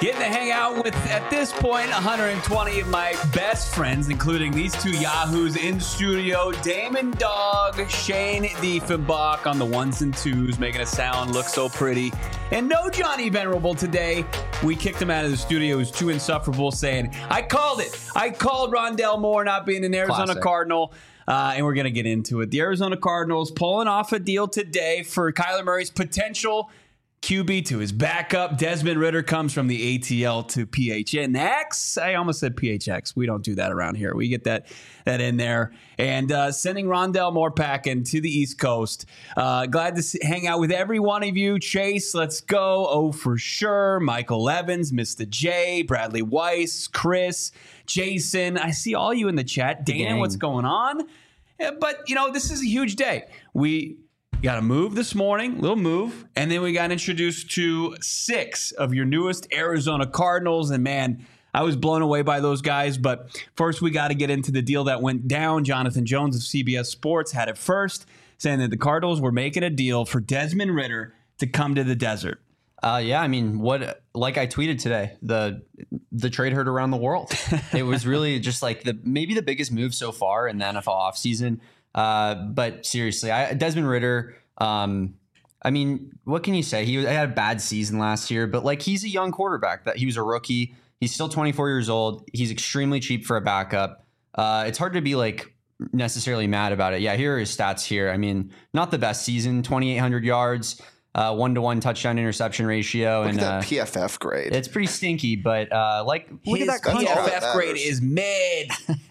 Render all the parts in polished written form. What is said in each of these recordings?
Getting to hang out with, at this point, 120 of my best friends, including these two yahoos in studio, Damon Dog, Shane Diefenbach on the ones and twos, making it sound look so pretty. And no Johnny Venerable today. We kicked him out of the studio. He was too insufferable, saying, I called it. I called Rondell Moore not being an Arizona Classic. Cardinal. And we're going to get into it. The Arizona Cardinals pulling off a deal today for Kyler Murray's potential QB to his backup. Desmond Ridder comes from the ATL to PHNX. I almost said PHX. We don't do that around here. We get that in there. And sending Rondell Moore packing to the East Coast. Glad to hang out with every one of you. Chase, let's go. Oh, for sure. Michael Evans, Mr. J, Bradley Weiss, Chris, Jason. I see all you in the chat. Dana, what's going on? But, this is a huge day. We got a move this morning, little move, and then we got introduced to 6 of your newest Arizona Cardinals, and man, I was blown away by those guys. But first, we got to get into the deal that went down. Jonathan Jones of CBS Sports had it first, saying that the Cardinals were making a deal for Desmond Ridder to come to the desert. Like I tweeted today, the trade heard around the world. It was really just like maybe the biggest move so far in the NFL offseason. But seriously, Desmond Ridder, what can you say? He had a bad season last year, but he's a young quarterback. That he was a rookie. He's still 24 years old. He's extremely cheap for a backup. It's hard to be necessarily mad about it. Yeah, here are his stats here. Not the best season, 2,800 yards, 1-to-1 touchdown interception ratio. Look at that PFF grade. It's pretty stinky, but look at that PFF grade is mid.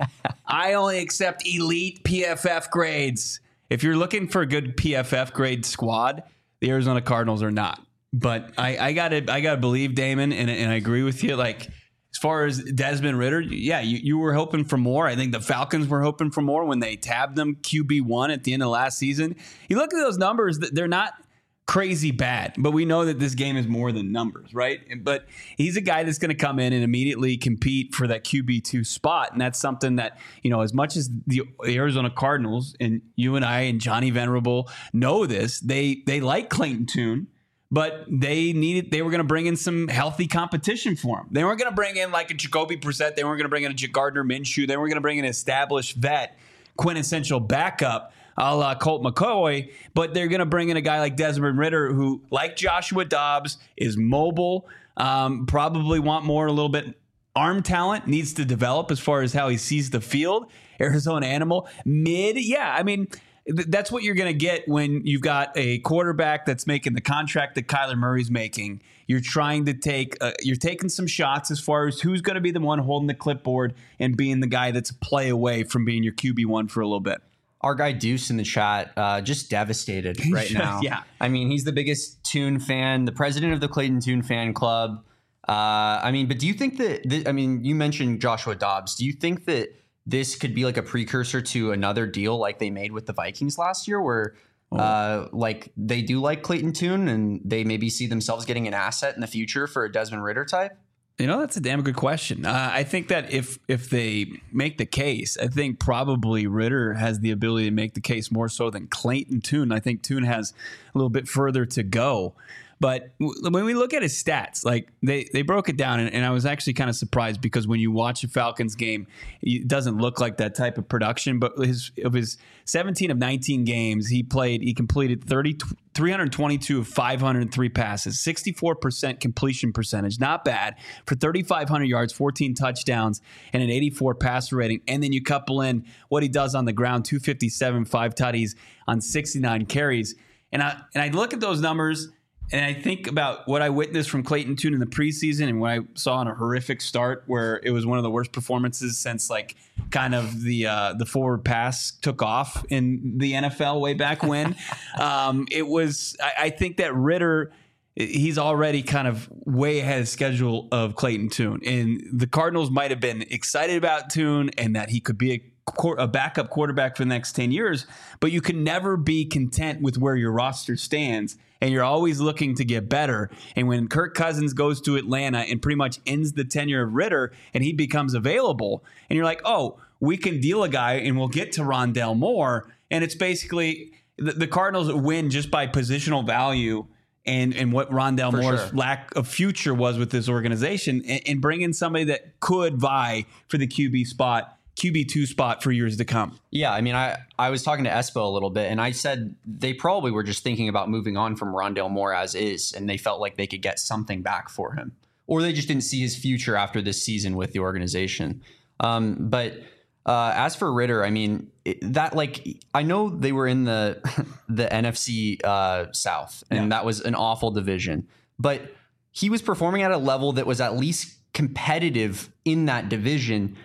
I only accept elite PFF grades. If you're looking for a good PFF grade squad, the Arizona Cardinals are not. But I gotta believe Damon, and I agree with you. As far as Desmond Ridder, yeah, you were hoping for more. I think the Falcons were hoping for more when they tabbed them QB1 at the end of last season. You look at those numbers; they're not crazy bad, but we know that this game is more than numbers, right? But he's a guy that's going to come in and immediately compete for that QB2 spot, and that's something that, as much as the Arizona Cardinals, and you and I and Johnny Venerable know this, they like Clayton Tune, but they were going to bring in some healthy competition for him. They weren't going to bring in a Jacoby Brissett. They weren't going to bring in a Gardner Minshew. They weren't going to bring in an established vet, quintessential backup, a la Colt McCoy, but they're going to bring in a guy like Desmond Ridder who, like Joshua Dobbs, is mobile, probably want more, a little bit arm talent, needs to develop as far as how he sees the field. Arizona animal, mid, yeah, that's what you're going to get when you've got a quarterback that's making the contract that Kyler Murray's making. You're trying to you're taking some shots as far as who's going to be the one holding the clipboard and being the guy that's a play away from being your QB1 for a little bit. Our guy Deuce in the chat, just devastated right now. Yeah. He's the biggest Tune fan, the president of the Clayton Tune fan club. But do you think that, you mentioned Joshua Dobbs. Do you think that this could be a precursor to another deal like they made with the Vikings last year where they do like Clayton Tune and they maybe see themselves getting an asset in the future for a Desmond Ridder type? That's a damn good question. I think that if they make the case, I think probably Ridder has the ability to make the case more so than Clayton Tune. I think Tune has a little bit further to go. But when we look at his stats, they broke it down, and I was actually kind of surprised because when you watch a Falcons game, it doesn't look like that type of production. But of his 17 of 19 games he played, he completed 322 of 503 passes, 64% completion percentage, not bad for 3,500 yards, 14 touchdowns, and an 84 passer rating. And then you couple in what he does on the ground, 257, 5 tutties on 69 carries. And I look at those numbers. And I think about what I witnessed from Clayton Tune in the preseason and what I saw in a horrific start where it was one of the worst performances since kind of the forward pass took off in the NFL way back when. I think that Ridder, he's already kind of way ahead of schedule of Clayton Tune. And the Cardinals might have been excited about Tune and that he could be a backup quarterback for the next 10 years, but you can never be content with where your roster stands, and you're always looking to get better. And when Kirk Cousins goes to Atlanta and pretty much ends the tenure of Ridder and he becomes available, and you're like, oh, we can deal a guy and we'll get to Rondell Moore, and it's basically the Cardinals win just by positional value and what Rondale For Moore's sure. lack of future was with this organization, and bring in somebody that could vie for the QB2 spot for years to come. Yeah, I mean, I was talking to Espo a little bit, and I said they probably were just thinking about moving on from Rondale Moore as is, and they felt like they could get something back for him. Or they just didn't see his future after this season with the organization. But as for Ridder, I mean, I know they were in the NFC South, and that was an awful division. But he was performing at a level that was at least competitive in that division.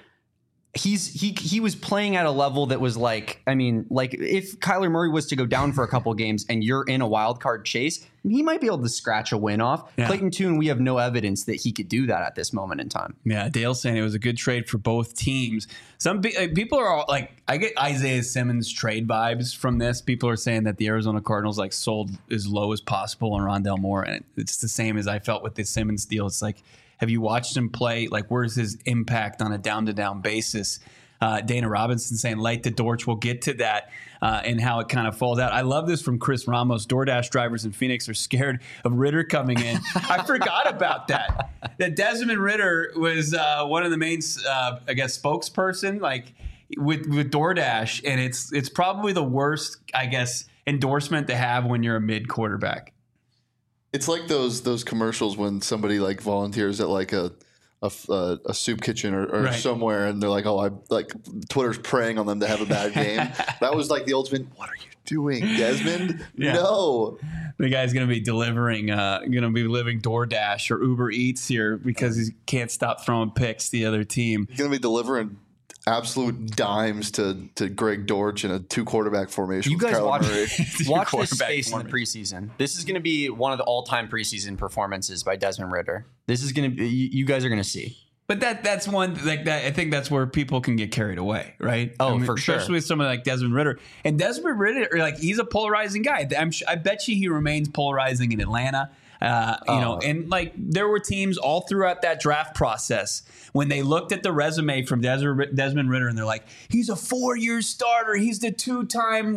He was playing at a level that was like, I mean, like if Kyler Murray was to go down for a couple of games and you're in a wild card chase, he might be able to scratch a win off. Yeah. Clayton Tune, we have no evidence that he could do that at this moment in time. Yeah, Dale's saying it was a good trade for both teams. Some people are like, I get Isaiah Simmons trade vibes from this. People are saying that the Arizona Cardinals like sold as low as possible on Rondale Moore, and it's the same as I felt with the Simmons deal. It's like, have you watched him play? Like, where's his impact on a down-to-down basis? Dana Robinson saying, light the torch. We'll get to that and how it kind of falls out. I love this from Chris Ramos. DoorDash drivers in Phoenix are scared of Ridder coming in. I forgot about that. That Desmond Ridder was one of the main, I guess, spokesperson like with DoorDash. And it's probably the worst, I guess, endorsement to have when you're a mid-quarterback. It's like those commercials when somebody like volunteers at like a soup kitchen or right. somewhere, and they're like, "Oh, I like Twitter's preying on them to have a bad game." That was like the ultimate. What are you doing, Desmond? Yeah. No, the guy's gonna be living DoorDash or Uber Eats here because he can't stop throwing picks to the other team. He's gonna be delivering absolute dimes to Greg Dortch in a 2-quarterback formation. You guys watch this space in the preseason. This is going to be one of the all-time preseason performances by Desmond Ridder. This is going to be, you guys are going to see. But that's one like that. I think that's where people can get carried away, right? Oh, I mean, for sure. Especially with someone like Desmond Ridder. And Desmond Ridder, like he's a polarizing guy. I bet you he remains polarizing in Atlanta. And like there were teams all throughout that draft process when they looked at the resume from Desmond Ridder and they're like, he's a 4-year starter. He's the 2-time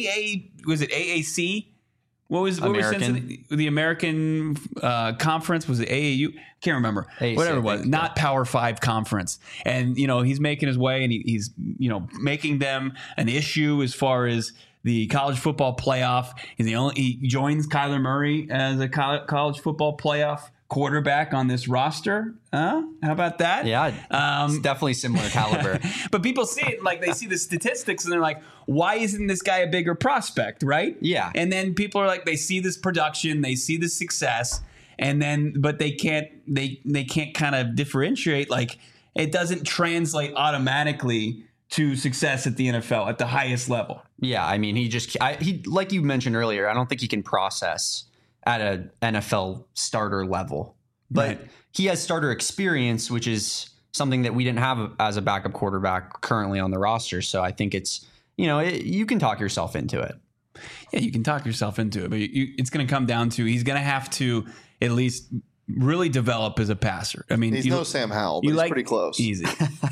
AAC? What was the American conference? Was it AAU? Can't remember. AAC, whatever it was. Not Power 5 conference. And he's making his way and he's making them an issue as far as the college football playoff. He joins Kyler Murray as a college football playoff quarterback on this roster. How about that? Yeah, it's definitely similar caliber. But people see it like they see the statistics and they're like, why isn't this guy a bigger prospect, right? Yeah. And then people are like, they see this production, they see the success, but they can't kind of differentiate. Like it doesn't translate automatically to success at the NFL at the highest level. Yeah, I mean, he like you mentioned earlier, I don't think he can process at an NFL starter level, but right. He has starter experience, which is something that we didn't have as a backup quarterback currently on the roster. So I think it's, you can talk yourself into it. Yeah, you can talk yourself into it, but it's going to come down to he's going to have to at least really develop as a passer. I mean, he's no Sam Howell, but he's pretty close. Easy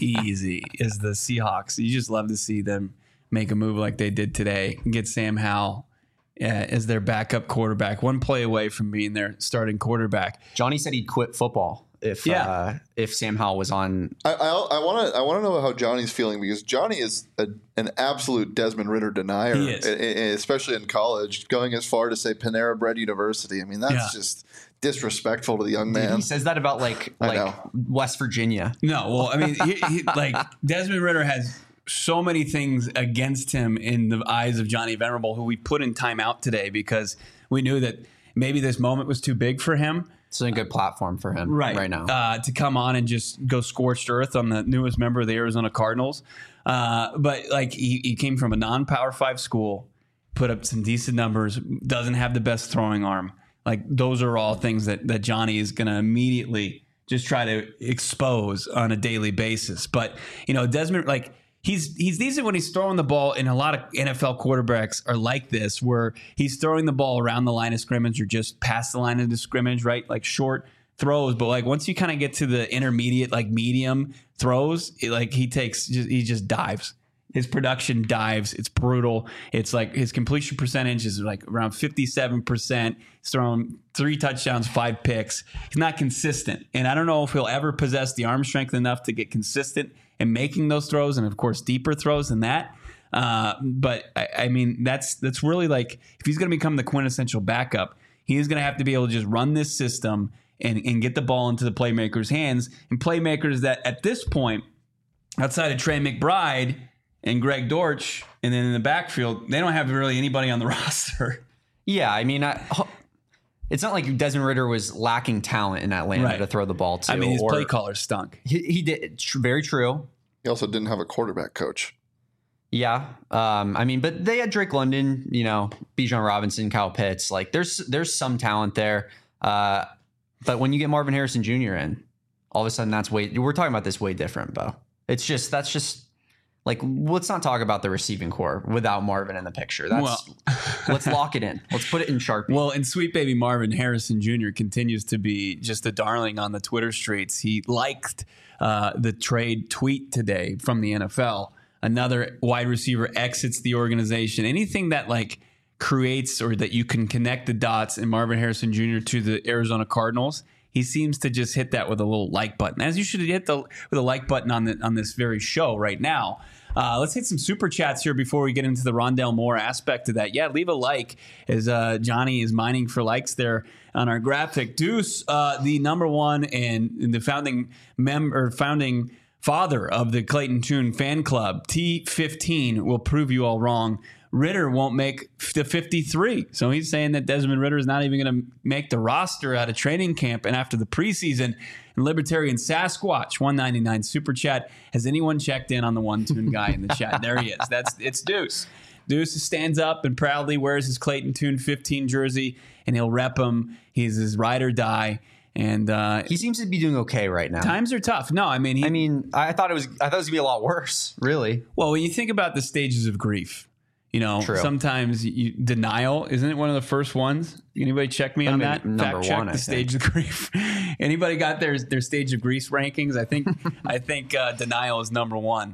as the Seahawks. You just love to see them make a move like they did today and get Sam Howell as their backup quarterback, one play away from being their starting quarterback. Johnny said he'd quit football if Sam Howell was on. I want to know how Johnny's feeling, because Johnny is an absolute Desmond Ridder denier, he is. Especially in college, going as far to say Panera Bread University. I mean, that's just disrespectful to the young man. He says that about like West Virginia. No, well, I mean, he like Desmond Ridder has so many things against him in the eyes of Johnny Venerable, who we put in timeout today because we knew that maybe this moment was too big for him. It's a good platform for him right now to come on and just go scorched earth on the newest member of the Arizona Cardinals. But like he came from a non-Power 5 school, put up some decent numbers, doesn't have the best throwing arm. Like those are all things that Johnny is going to immediately just try to expose on a daily basis. But Desmond, like he's decent when he's throwing the ball, and a lot of NFL quarterbacks are like this, where he's throwing the ball around the line of scrimmage or just past the line of the scrimmage, right? Like short throws. But like once you kind of get to the intermediate, like medium throws, he just dives. His production dives. It's brutal. It's like his completion percentage is like around 57%. He's thrown 3 touchdowns, 5 picks. He's not consistent. And I don't know if he'll ever possess the arm strength enough to get consistent in making those throws, and of course, deeper throws than that. But I mean, that's really like, if he's going to become the quintessential backup, he is going to have to be able to just run this system and get the ball into the playmakers' hands, and playmakers that at this point, outside of Trey McBride and Greg Dortch, and then in the backfield, they don't have really anybody on the roster. Yeah, I mean, it's not like Desmond Ridder was lacking talent in Atlanta to throw the ball to. I mean, his play caller stunk. He did. Very true. He also didn't have a quarterback coach. Yeah. I mean, but they had Drake London, Bijan Robinson, Kyle Pitts. Like, there's some talent there. But when you get Marvin Harrison Jr. in, all of a sudden we're talking about this way different, Bo. That's just like, let's not talk about the receiving core without Marvin in the picture. Let's lock it in. Let's put it in Sharpie. Well, and sweet baby Marvin Harrison Jr. continues to be just a darling on the Twitter streets. He liked the trade tweet today from the NFL. Another wide receiver exits the organization. Anything that like creates or that you can connect the dots in Marvin Harrison Jr. to the Arizona Cardinals, he seems to just hit that with a little like button, as you should hit with a like button on this very show right now. Let's hit some super chats here before we get into the Rondale Moore aspect of that. Yeah, leave a like as Johnny is mining for likes there on our graphic. Deuce, the number one and the founding father of the Clayton Tune fan club, T15, will prove you all wrong. Ridder won't make the 53. So he's saying that Desmond Ridder is not even going to make the roster out of training camp and after the preseason. And Libertarian Sasquatch, 199 super chat. Has anyone checked in on the one tune guy in the chat? There he is. It's Deuce. Deuce stands up and proudly wears his Clayton Tune 15 jersey, and he'll rep him. He's his ride or die. And he seems to be doing okay right now. Times are tough. No, I mean, I thought it was gonna be a lot worse, really. Well, when you think about the stages of grief, True. Sometimes denial, isn't it one of the first ones? Anybody check me on that? Number Fact check one, the stage of grief. Anybody got their stage of grief rankings? I think denial is number one.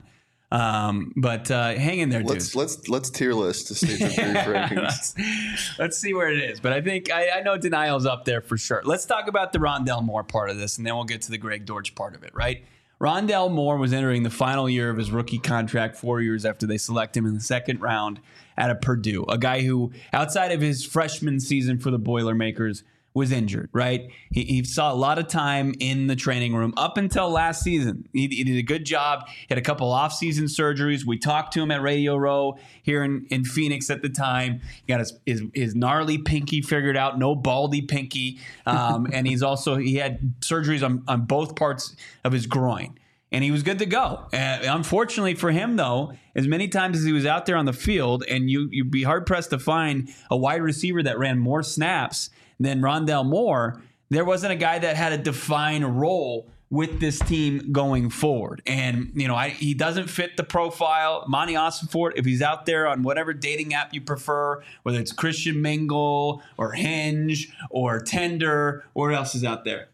But hang in there, dude. Let's tier list the stage of grief rankings. Let's see where it is. But I think I know denial's up there for sure. Let's talk about the Rondale Moore part of this, and then we'll get to the Greg Dortch part of it, right? Rondale Moore was entering the final year of his rookie contract 4 years after they select him in the second round out of Purdue. A guy who, outside of his freshman season for the Boilermakers, was injured, right? He saw a lot of time in the training room up until last season. He did a good job. He had a couple off-season surgeries. We talked to him at Radio Row here in Phoenix at the time. He got his gnarly pinky figured out, no baldy pinky. And he had surgeries on both parts of his groin. And he was good to go. Unfortunately for him, though, as many times as he was out there on the field, and you'd be hard-pressed to find a wide receiver that ran more snaps than Rondale Moore, there wasn't a guy that had a defined role with this team going forward. And, he doesn't fit the profile. Monty Ossenfort, if he's out there on whatever dating app you prefer, whether it's Christian Mingle or Hinge or Tinder, or what else is out there?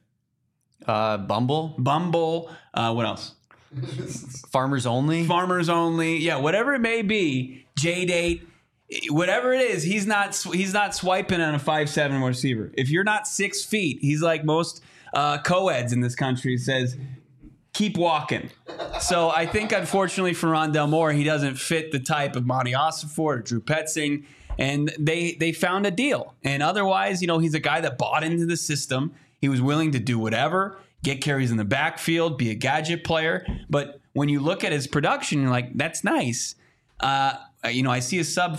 Bumble. What else? Farmers Only. Yeah, whatever it may be. J-Date. Whatever it is, he's not swiping on a 5'7" receiver. If you're not 6 feet, he's like most co-eds in this country, says, keep walking. So I think, unfortunately for Rondale Moore, he doesn't fit the type of Monty Ossenfort or Drew Petzing, and they found a deal. And otherwise, he's a guy that bought into the system. He was willing to do whatever, get carries in the backfield, be a gadget player. But when you look at his production, you're like, that's nice. I see a sub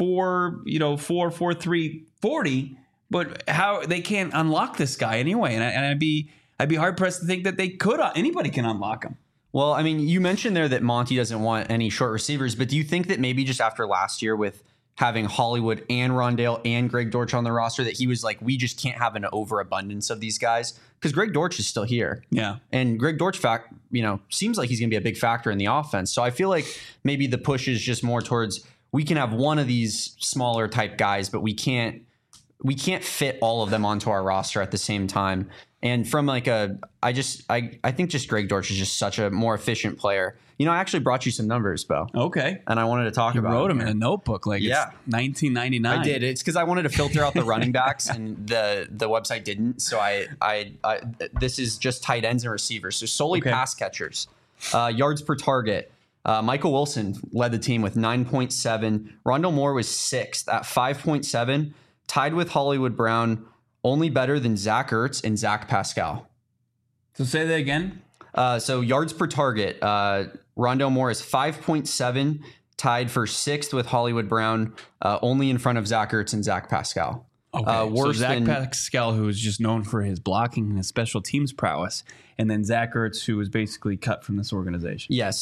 4.3 40, but how they can't unlock this guy anyway. And I'd be hard pressed to think that anybody can unlock him. Well, I mean, you mentioned there that Monty doesn't want any short receivers, but do you think that maybe just after last year with having Hollywood and Rondale and Greg Dortch on the roster, that he was like, we just can't have an overabundance of these guys? Because Greg Dortch is still here. Yeah. And Greg Dortch, seems like he's going to be a big factor in the offense. So I feel like maybe the push is just more towards, we can have one of these smaller type guys, but we can't we can't fit all of them onto our roster at the same time. And from like I think just Greg Dortch is just such a more efficient player. You know, I actually brought you some numbers, Bo. Okay. And I wanted to talk about. You wrote them in a notebook, like it's 1999. I did. It's because I wanted to filter out the running backs, and the website didn't. So I this is just tight ends and receivers, so solely pass catchers. Yards per target. Michael Wilson led the team with 9.7. Rondale Moore was 6th at 5.7, tied with Hollywood Brown, only better than Zach Ertz and Zach Pascal. So say that again. So yards per target, Rondale Moore is 5.7, tied for 6th with Hollywood Brown, only in front of Zach Ertz and Zach Pascal. Okay, so Zach Pascal, who is just known for his blocking and his special teams prowess, and then Zach Ertz, who was basically cut from this organization. Yes,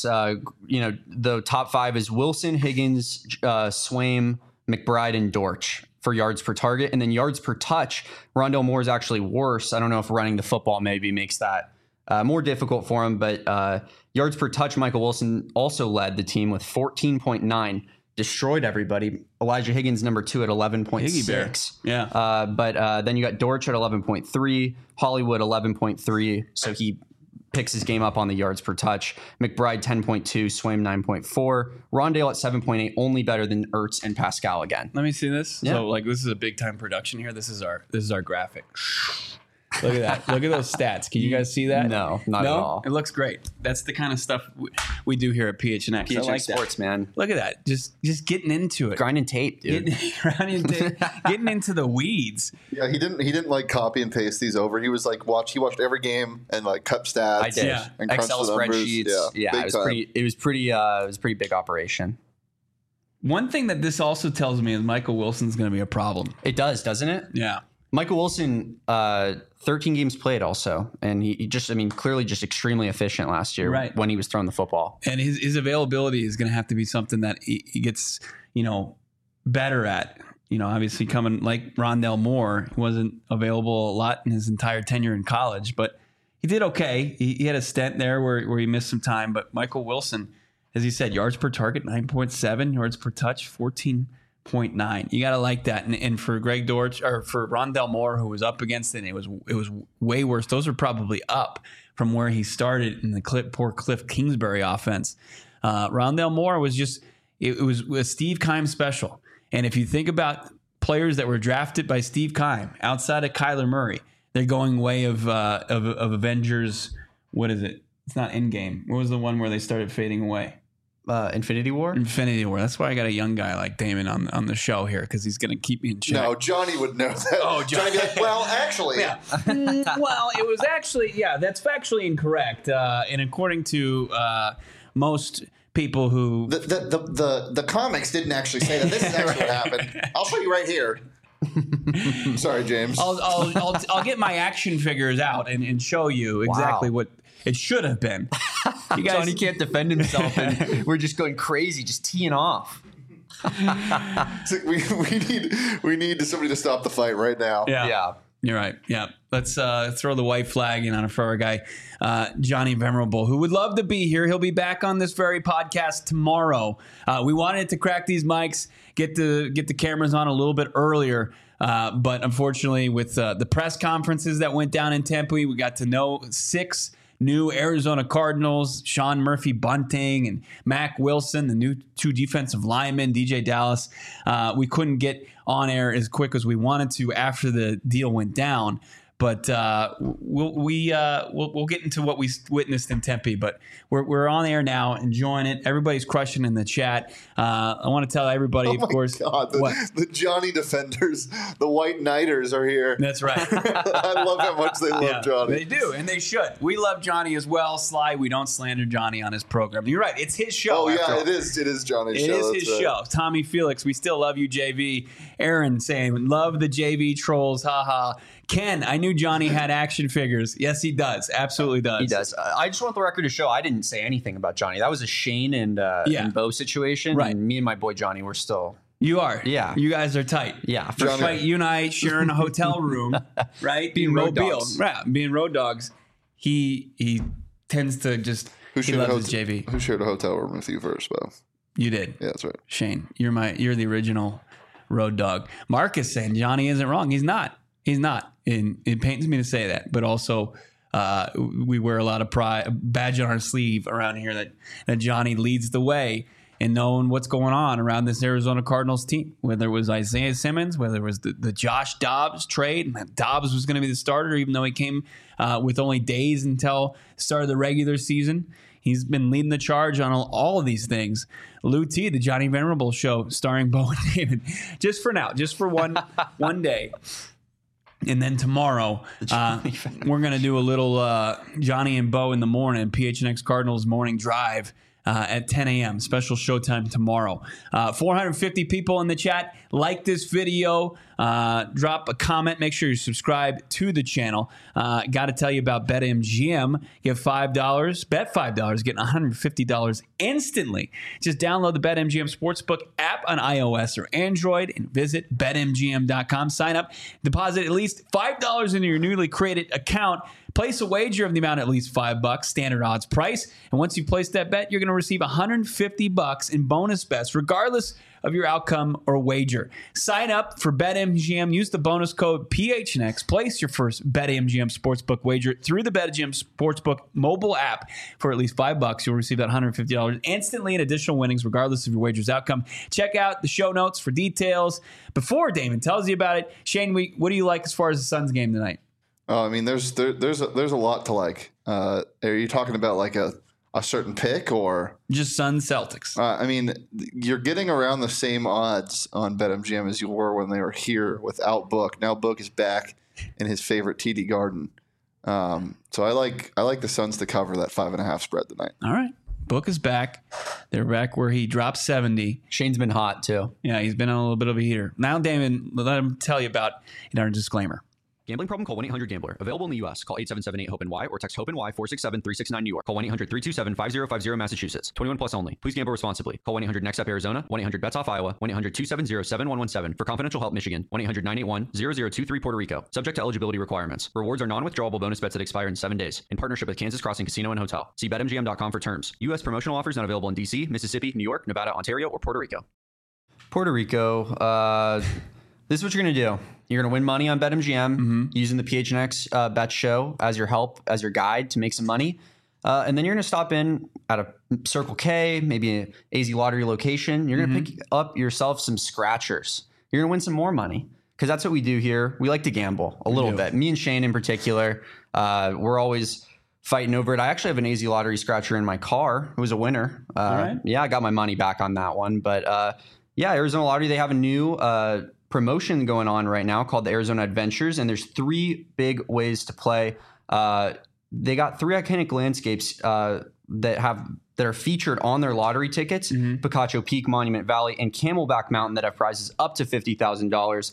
the top 5 is Wilson, Higgins, Swaim, McBride, and Dortch for yards per target. And then yards per touch, Rondale Moore is actually worse. I don't know if running the football maybe makes that more difficult for him, but yards per touch, Michael Wilson also led the team with 14.9, destroyed everybody. Elijah Higgins, number 2 at 11.6. Yeah. But then you got Dortch at 11.3, Hollywood 11.3. So he picks his game up on the yards per touch. McBride 10.2, Swaim 9.4, Rondale at 7.8, only better than Ertz and Pascal again. Let me see this. Yeah. So like this is a big time production here. This is our graphic. Look at that. Look at those stats. Can you guys see that? No, not at all. It looks great. That's the kind of stuff we do here at PHNX. PHNX like Sports, man. Look at that. Just getting into it. Grinding tape, dude. Getting into the weeds. Yeah, he didn't like copy and paste these over. He was like he watched every game and like cut stats. I did. Yeah. And Excel spreadsheets. Yeah, it was pretty big operation. One thing that this also tells me is Michael Wilson's going to be a problem. It does, doesn't it? Yeah. Michael Wilson, 13 games played also. And he just, clearly just extremely efficient last year when he was throwing the football. And his availability is going to have to be something that he gets, better at. Obviously coming like Rondale Moore, he wasn't available a lot in his entire tenure in college, but he did okay. He had a stint there where he missed some time. But Michael Wilson, as he said, yards per target, 9.7, yards per touch, 14.9. You got to like that. And for Greg Dortch or for Rondale Moore, who was up against it, it was way worse. Those are probably up from where he started in the poor Cliff Kingsbury offense. Rondale Moore was just, it was a Steve Keim special. And if you think about players that were drafted by Steve Keim outside of Kyler Murray, they're going way of Avengers. What is it? It's not Endgame. What was the one where they started fading away? Infinity War? Infinity War. That's why I got a young guy like Damon on the show here, because he's going to keep me in check. No, Johnny would know that. Oh, Johnny would be like, well, actually. Yeah. Well, it was actually, that's factually incorrect. And according to most people who... The comics didn't actually say that. This is actually what happened. I'll show you right here. Sorry, James. I'll get my action figures out and show you exactly what it should have been. You guys, Johnny can't defend himself, and we're just going crazy, just teeing off. So we need somebody to stop the fight right now. Yeah. You're right. Yeah. Let's throw the white flag in on it for our guy, Johnny Venerable, who would love to be here. He'll be back on this very podcast tomorrow. We wanted to crack these mics, get the cameras on a little bit earlier. But unfortunately, with the press conferences that went down in Tempe, we got to know 6 new Arizona Cardinals, Sean Murphy-Bunting and Mack Wilson, the new 2 defensive linemen, DJ Dallas. We couldn't get on air as quick as we wanted to after the deal went down. But we'll get into what we witnessed in Tempe. But we're on air now, enjoying it. Everybody's crushing in the chat. I want to tell everybody, of course. God, the Johnny defenders, the White Knighters are here. That's right. I love how much they love Johnny. They do, and they should. We love Johnny as well. Sly, we don't slander Johnny on his program. You're right. It's his show. Oh, yeah, it is. It is Johnny's show. It is his show. Tommy Felix, we still love you, JV. Aaron saying, love the JV trolls. Ha. Ken, I knew Johnny had action figures. Yes, he does. Absolutely does. He does. I just want the record to show I didn't say anything about Johnny. That was a Shane and Bo situation. Right. And me and my boy Johnny were still... You are. Yeah. You guys are tight. Yeah. For sure. You and I sharing a hotel room, right? Being road dogs. Right. Being road dogs. He tends to just... He loves his JV. Who shared a hotel room with you first, Bo? You did. Yeah, that's right. Shane, you're the original road dog. Marcus saying Johnny isn't wrong. He's not. He's not. And it pains me to say that, but also we wear a lot of pride, badge on our sleeve around here that Johnny leads the way in knowing what's going on around this Arizona Cardinals team, whether it was Isaiah Simmons, whether it was the Josh Dobbs trade. Dobbs was going to be the starter, even though he came with only days until the start of the regular season. He's been leading the charge on all of these things. Lou T, the Johnny Venerable Show, starring Bo and David, just for now, just for one day. And then tomorrow, we're going to do a little Johnny and Bo in the morning, PHNX Cardinals morning drive at 10 a.m. Special showtime tomorrow. 450 people in the chat. Like this video. Drop a comment. Make sure you subscribe to the channel. Got to tell you about BetMGM. Get $5. Bet $5. Getting $150 instantly. Just download the BetMGM Sportsbook app on iOS or Android and visit BetMGM.com. Sign up. Deposit at least $5 into your newly created account. Place a wager of the amount at least $5, standard odds price. And once you place that bet, you're going to receive $150 in bonus bets, regardless of your outcome or wager. Sign up for BetMGM. Use the bonus code PHNX. Place your first BetMGM Sportsbook wager through the BetMGM Sportsbook mobile app for at least $5. You'll receive that $150 instantly in additional winnings, regardless of your wager's outcome. Check out the show notes for details. Before Damon tells you about it, Shane, what do you like as far as the Suns game tonight? Oh, I mean, there's a lot to like. Are you talking about like a certain pick or just Suns Celtics? I mean, you're getting around the same odds on BetMGM as you were when they were here without Book. Now Book is back in his favorite TD Garden. So I like the Suns to cover that 5.5 spread tonight. All right. Book is back. They're back where he dropped 70. Shane's been hot too. Yeah, he's been on a little bit of a heater. Now, Damon, let him tell you about our disclaimer. Gambling problem? Call 1-800-GAMBLER. Available in the U.S. Call 877-8-HOPE-NY or text HOPE-NY 467-369 New York. Call 1-800-327-5050 Massachusetts. 21 plus only. Please gamble responsibly. Call 1-800-NEXT-UP Arizona. 1-800-BETS-OFF Iowa. 1-800-270-7117 for confidential help Michigan. 1-800-981-0023 Puerto Rico. Subject to eligibility requirements. Rewards are non-withdrawable bonus bets that expire in 7 days. In partnership with Kansas Crossing Casino and Hotel. See BetMGM.com for terms. U.S. promotional offers not available in D.C., Mississippi, New York, Nevada, Ontario, or Puerto Rico. Puerto Rico, this is what you're going to do. You're going to win money on BetMGM using the PHNX Bet Show as your help, as your guide to make some money. And then you're going to stop in at a Circle K, maybe an AZ Lottery location. You're going to pick up yourself some scratchers. You're going to win some more money because that's what we do here. We like to gamble a little bit. Me and Shane in particular, we're always fighting over it. I actually have an AZ Lottery scratcher in my car. It was a winner. Right. Yeah, I got my money back on that one. But yeah, Arizona Lottery, they have a new promotion going on right now called the Arizona Adventures, and there's 3 big ways to play. They got 3 iconic landscapes that are featured on their lottery tickets: Picacho Peak, Monument Valley, and Camelback Mountain, that have prizes up to $50,000.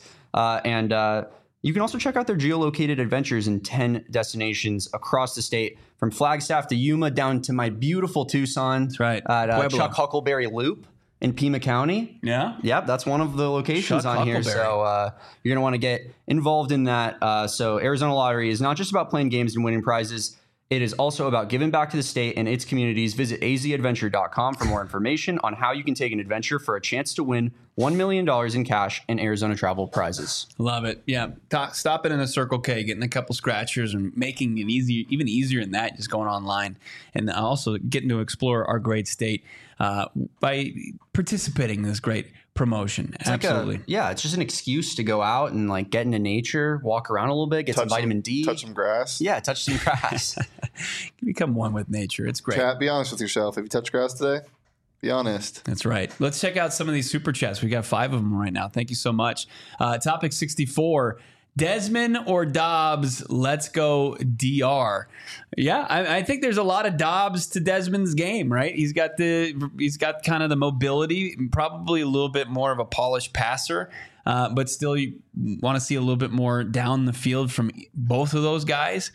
And you can also check out their geolocated adventures in 10 destinations across the state, from Flagstaff to Yuma down to my beautiful Tucson. That's right. At Chuck Huckleberry Loop in Pima County. Yeah. Yep, that's one of the locations Chuck on here. So you're going to want to get involved in that. So Arizona Lottery is not just about playing games and winning prizes. It is also about giving back to the state and its communities. Visit azadventure.com for more information on how you can take an adventure for a chance to win $1 million in cash and Arizona travel prizes. Love it. Yeah. Stopping in a Circle K, getting a couple scratchers, and making it even easier than that, just going online, and also getting to explore our great state by participating in this great promotion. It's Absolutely. It's just an excuse to go out and like get into nature, walk around a little bit, get some vitamin D. Touch some grass. Yeah, touch some grass. Become one with nature. It's great. Chat, be honest with yourself. Have you touched grass today? Be honest. That's right. Let's check out some of these super chats. We got 5 of them right now. Thank you so much. Topic 64. Desmond or Dobbs? Let's go DR. Yeah, I think there's a lot of Dobbs to Desmond's game, right? He's got kind of the mobility, probably a little bit more of a polished passer, but still you want to see a little bit more down the field from both of those guys.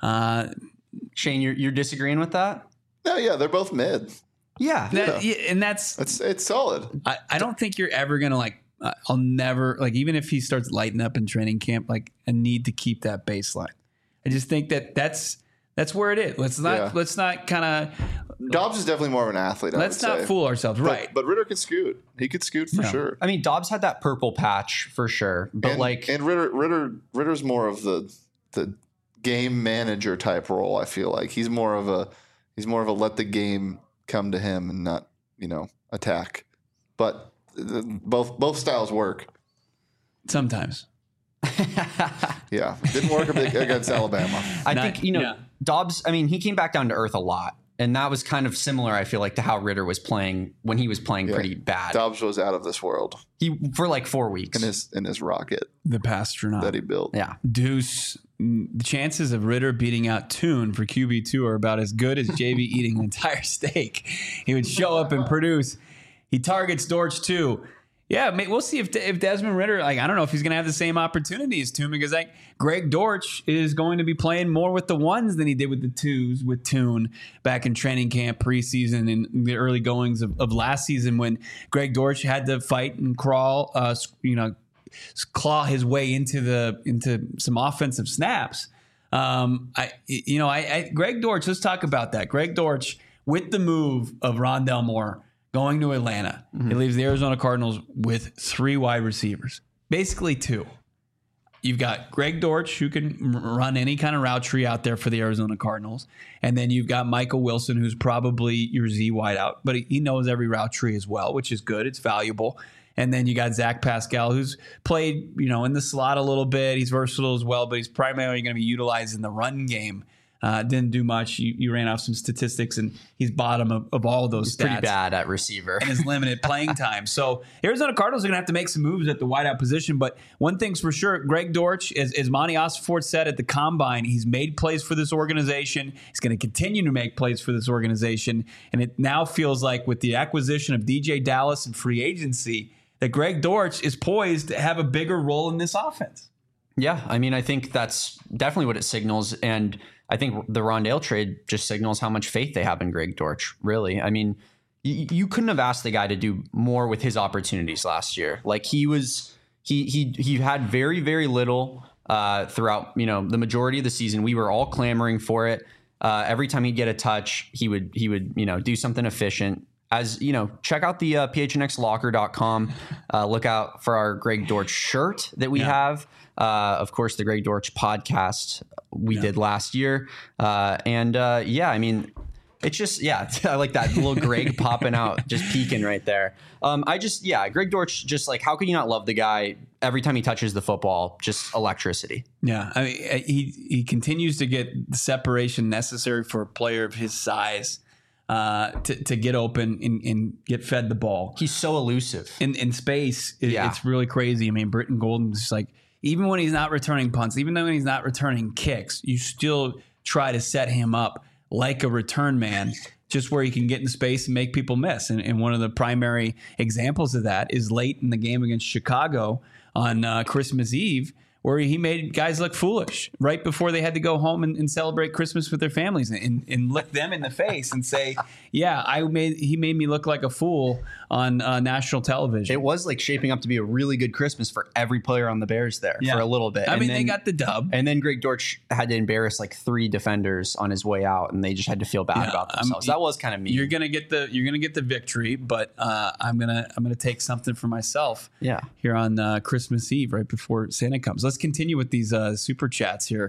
Shane, you're disagreeing with that? No, yeah, they're both mid. Yeah. And it's solid. I don't think you're ever going to I'll never, even if he starts lighting up in training camp, I need to keep that baseline. I just think that's That's where it is. Let's not kind of. Dobbs is definitely more of an athlete. Let's not fool ourselves, right? But Ritter can scoot. He could scoot for sure. I mean, Dobbs had that purple patch for sure, but and Ritter's more of the game manager type role. I feel like he's more of a let the game come to him and not attack. But both styles work sometimes. Yeah, didn't work a bit against Alabama. I think Dobbs. I mean, he came back down to earth a lot, and that was kind of similar. I feel like to how Ritter was playing when he was playing pretty bad. Dobbs was out of this world. He for like 4 weeks in his rocket, the Pastronaut that he built. Yeah, Deuce. The chances of Ritter beating out Tune for QB2 are about as good as JV eating an entire steak. He would show up and produce. He targets Dortch too. Yeah, we'll see if Desmond Ritter, I don't know if he's going to have the same opportunity as Tune, because Greg Dortch is going to be playing more with the ones than he did with the twos with Tune back in training camp, preseason, and the early goings of last season when Greg Dortch had to fight and crawl, claw his way into some offensive snaps. Greg Dortch, let's talk about that. Greg Dortch, with the move of Rondale Moore going to Atlanta, he leaves the Arizona Cardinals with 3 wide receivers, basically 2. You've got Greg Dortch, who can run any kind of route tree out there for the Arizona Cardinals. And then you've got Michael Wilson, who's probably your Z wideout, but he knows every route tree as well, which is good. It's valuable. And then you got Zach Pascal, who's played, in the slot a little bit. He's versatile as well, but he's primarily going to be utilized in the run game. Didn't do much. You ran off some statistics, and he's bottom of all of those he's stats. Pretty bad at receiver. And his limited playing time. So Arizona Cardinals are going to have to make some moves at the wideout position. But one thing's for sure, Greg Dortch, as Monty Ossenfort said at the Combine, he's made plays for this organization. He's going to continue to make plays for this organization. And it now feels like with the acquisition of DJ Dallas and free agency, that Greg Dortch is poised to have a bigger role in this offense. Yeah, I mean, I think that's definitely what it signals. And I think the Rondale trade just signals how much faith they have in Greg Dortch, really. I mean, you couldn't have asked the guy to do more with his opportunities last year. Like he had very, very little throughout, the majority of the season. We were all clamoring for it. Every time he'd get a touch, he would do something efficient. As check out the phnxlocker.com. Look out for our Greg Dortch shirt that we have. Of course, the Greg Dortch podcast we did last year. I mean, it's just, I like that little Greg popping out, just peeking right there. Greg Dortch, just like, how can you not love the guy? Every time he touches the football, just electricity. Yeah. I mean, he continues to get the separation necessary for a player of his size. To get open and get fed the ball. He's so elusive. In space, it's really crazy. I mean, Britton Golden's just like, even when he's not returning punts, even though he's not returning kicks, you still try to set him up like a return man, just where he can get in space and make people miss. And one of the primary examples of that is late in the game against Chicago on Christmas Eve, where he made guys look foolish right before they had to go home and celebrate Christmas with their families and look them in the face and say, he made me look like a fool on national television. It was like shaping up to be a really good Christmas for every player on the Bears there for a little bit. I mean, they got the dub. And then Greg Dortch had to embarrass like 3 defenders on his way out, and they just had to feel bad about themselves. That was kind of mean. You're gonna get the victory, but I'm gonna take something for myself. Yeah. Here on Christmas Eve, right before Santa comes. Let's continue with these super chats here.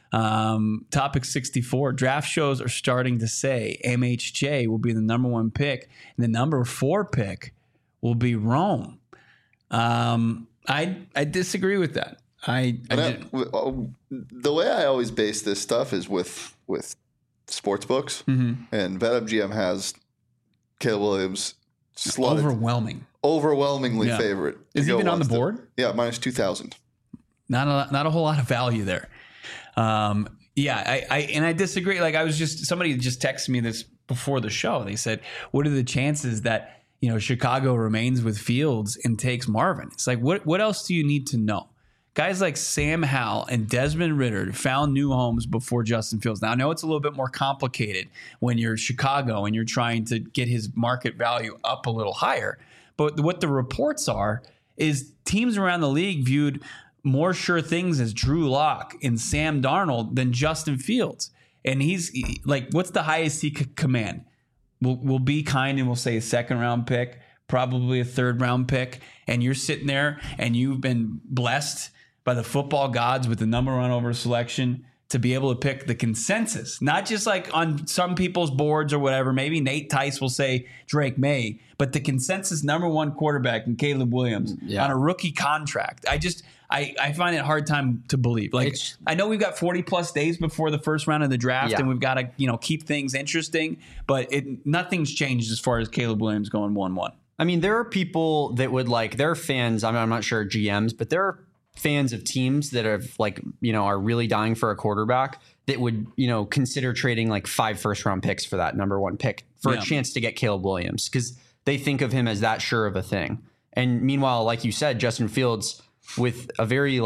Topic 64. Draft shows are starting to say MHJ will be the number 1 pick, and the number 4 pick will be Rome. I disagree with that. The way I always base this stuff is with sports books, and BetMGM has Caleb Williams slotted overwhelmingly favorite. Is he even on the board? Yeah, minus 2,000. Not a whole lot of value there. I disagree. Like somebody just texted me this before the show. They said, what are the chances that, Chicago remains with Fields and takes Marvin? It's like, what else do you need to know? Guys like Sam Howell and Desmond Ritter found new homes before Justin Fields. Now, I know it's a little bit more complicated when you're Chicago and you're trying to get his market value up a little higher. But what the reports are is teams around the league viewed more sure things as Drew Lock and Sam Darnold than Justin Fields. and like, what's the highest he could command? We'll be kind and we'll say a 2nd round pick, probably a 3rd round pick, and you're sitting there and you've been blessed by the football gods with the number 1 overall selection to be able to pick the consensus, not just like on some people's boards or whatever. Maybe Nate Tice will say Drake May, but the consensus number 1 quarterback in Caleb Williams on a rookie contract. I find it a hard time to believe. Like, I know we've got 40 plus days before the first round of the draft, and we've got to keep things interesting, but nothing's changed as far as Caleb Williams going 1-1. I mean, there are people that would there are fans. I'm not sure GMs, but there are fans of teams that are really dying for a quarterback that would, consider trading like 5 first-round picks for that number 1 pick for a chance to get Caleb Williams, because they think of him as that sure of a thing. And meanwhile, like you said, Justin Fields, with a very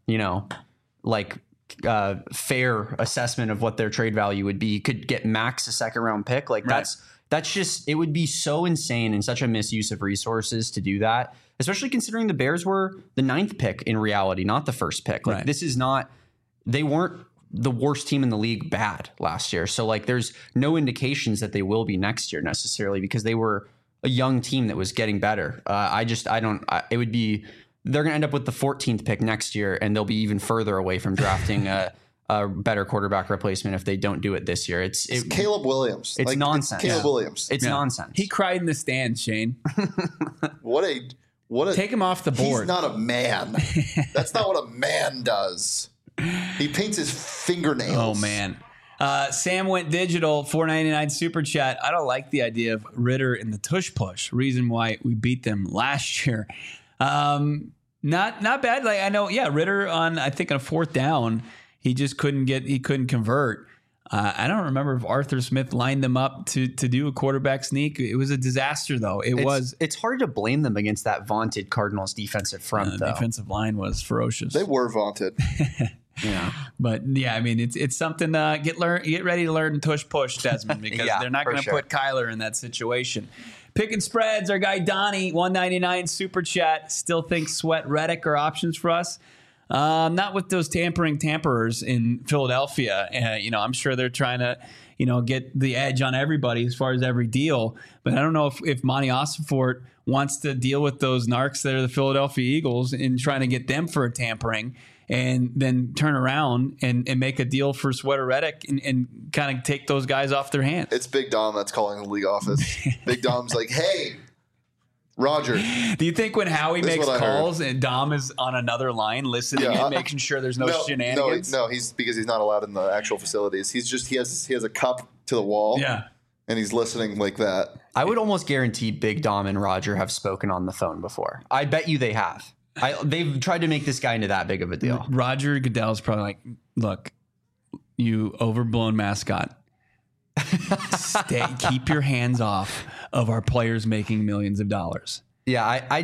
fair assessment of what their trade value would be, could get max a 2nd-round pick. That's just, it would be so insane and such a misuse of resources to do that, especially considering the Bears were the 9th pick in reality, not the 1st pick. This is not, they weren't the worst team in the league bad last year. So there's no indications that they will be next year necessarily, because they were a young team that was getting better. It would be, they're going to end up with the 14th pick next year, and they'll be even further away from drafting a better quarterback replacement if they don't do it this year. It's Caleb Williams. It's nonsense. Caleb Williams. It's nonsense. He cried in the stands, Shane. What a take him off the board. He's not a man. That's not what a man does. He paints his fingernails. Oh man. Sam went digital, $4.99 super chat. I don't like the idea of Ritter in the tush push. Reason why we beat them last year. Not bad. I know, Ritter on, I think on 4th down, he just couldn't convert. I don't remember if Arthur Smith lined them up to do a quarterback sneak. It was a disaster, though. It's hard to blame them against that vaunted Cardinals defensive front, though. Defensive line was ferocious. They were vaunted. Yeah. But I mean, it's something get ready to learn tush push, Desmond, because they're not going to put Kyler in that situation. Picking spreads, our guy Donnie, $1.99 super chat, still thinks Sweat, Reddick are options for us. Not with those tamperers in Philadelphia. I'm sure they're trying to, get the edge on everybody as far as every deal. But I don't know if Monty Ossenfort wants to deal with those narcs that are the Philadelphia Eagles and trying to get them for a tampering, and then turn around and make a deal for Sweat or Reddick and kind of take those guys off their hands. It's Big Dom that's calling the league office. Big Dom's like, hey, Roger. Do you think when Howie makes calls and Dom is on another line listening and making sure there's no shenanigans? No, because he's not allowed in the actual facilities. He has a cup to the wall. Yeah. And he's listening like that. I would almost guarantee Big Dom and Roger have spoken on the phone before. I bet you they have. They've tried to make this guy into that big of a deal. Roger Goodell's probably like, look, you overblown mascot. Keep your hands off of our players making millions of dollars. Yeah, I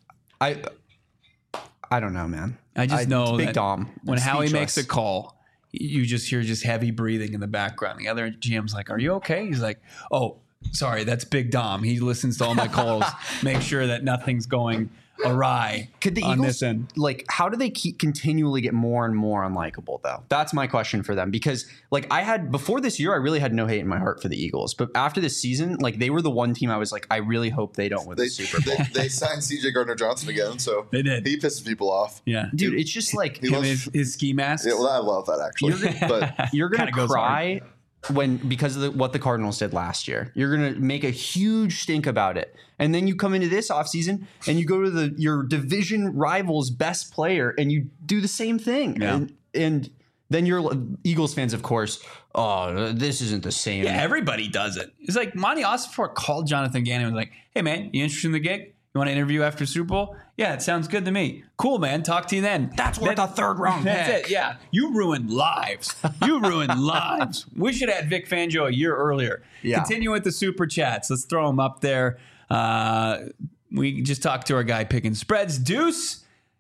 don't know, man. I just know Big that Dom, when Howie makes a call, you just hear heavy breathing in the background. The other GM's like, "Are you okay?" He's like, "Oh, sorry, that's Big Dom. He listens to all my calls, make sure that nothing's going awry." Could the Eagles, how do they continually get more and more unlikable, though? That's my question for them, because before this year, I really had no hate in my heart for the Eagles, but after this season, they were the one team I was like, I really hope they don't win the Super Bowl. They signed CJ Gardner-Johnson again, so they did. He pisses people off. Yeah, dude, it's just his ski mask. Yeah, well, I love that actually. You're gonna cry because of what the Cardinals did last year. You're going to make a huge stink about it. And then you come into this offseason and you go to your division rival's best player and you do the same thing. Yeah. And then you're Eagles fans, of course. Oh, this isn't the same. Yeah, everybody does it. It's like Monty Ossenfort called Jonathan Gannon and was like, "Hey, man, you interested in the gig? You want to interview after Super Bowl? Yeah, it sounds good to me. Cool, man. Talk to you then." That's worth a 3rd round pick. That's it. Yeah. You ruined lives. We should have had Vic Fangio a year earlier. Yeah. Continue with the super chats. Let's throw them up there. We just talked to our guy picking spreads. Deuce,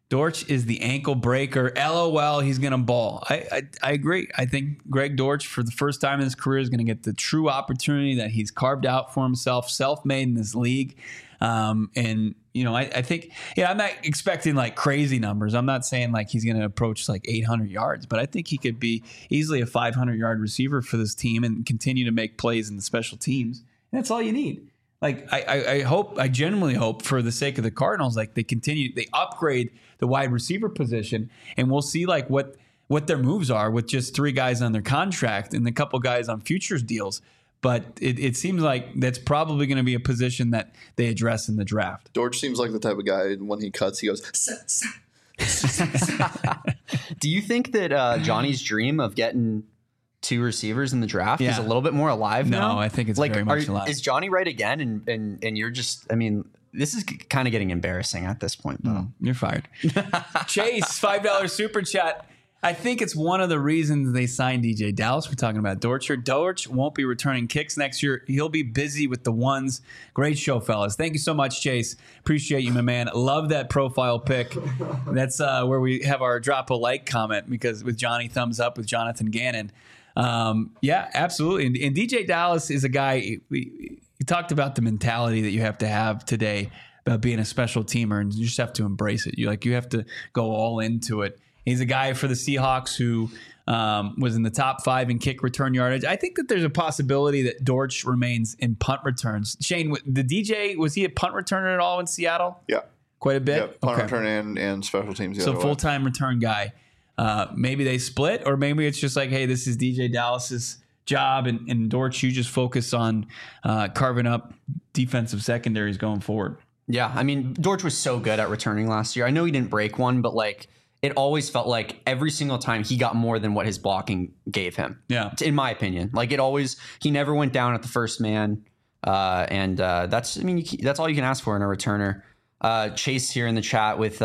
Dortch is the ankle breaker. LOL, he's going to ball. I agree. I think Greg Dortch, for the first time in his career, is going to get the true opportunity that he's carved out for himself, self-made in this league. And, you know, I think, I'm not expecting like crazy numbers. I'm not saying like he's going to approach like 800 yards, but I think he could be easily a 500-yard receiver for this team and continue to make plays in the special teams. And that's all you need. Like, I genuinely hope for the sake of the Cardinals, like they upgrade the wide receiver position, and we'll see like what their moves are with just 3 guys on their contract and a couple guys on futures deals. But it seems like that's probably going to be a position that they address in the draft. Dortch seems like the type of guy when he cuts, he goes, Do you think that Johnny's dream of getting 2 receivers in the draft is a little bit more alive now? No, I think it's like, very much alive. Is Johnny right again? And you're just, I mean, this is kind of getting embarrassing at this point, though. You're fired. Chase, $5 super chat. I think it's one of the reasons they signed DJ Dallas. We're talking about Dortch. Dortch won't be returning kicks next year. He'll be busy with the ones. Great show, fellas. Thank you so much, Chase. Appreciate you, my man. Love that profile pic. That's where we have our drop a like comment, because with Johnny thumbs up with Jonathan Gannon. Yeah, absolutely. And DJ Dallas is a guy, we talked about the mentality that you have to have today about being a special teamer, and you just have to embrace it. You have to go all into it. He's a guy for the Seahawks who was in the top 5 in kick return yardage. I think that there's a possibility that Dortch remains in punt returns. Shane, the DJ, was he a punt returner at all in Seattle? Yeah. Quite a bit? Yeah, punt return and special teams. So full-time return guy. Maybe they split, or maybe it's just like, hey, this is DJ Dallas's job, and Dortch, you just focus on carving up defensive secondaries going forward. Yeah, I mean, Dortch was so good at returning last year. I know he didn't break one, but like it always felt like every single time he got more than what his blocking gave him. Yeah, in my opinion, like he never went down at the first man, and that's all you can ask for in a returner. Chase here in the chat with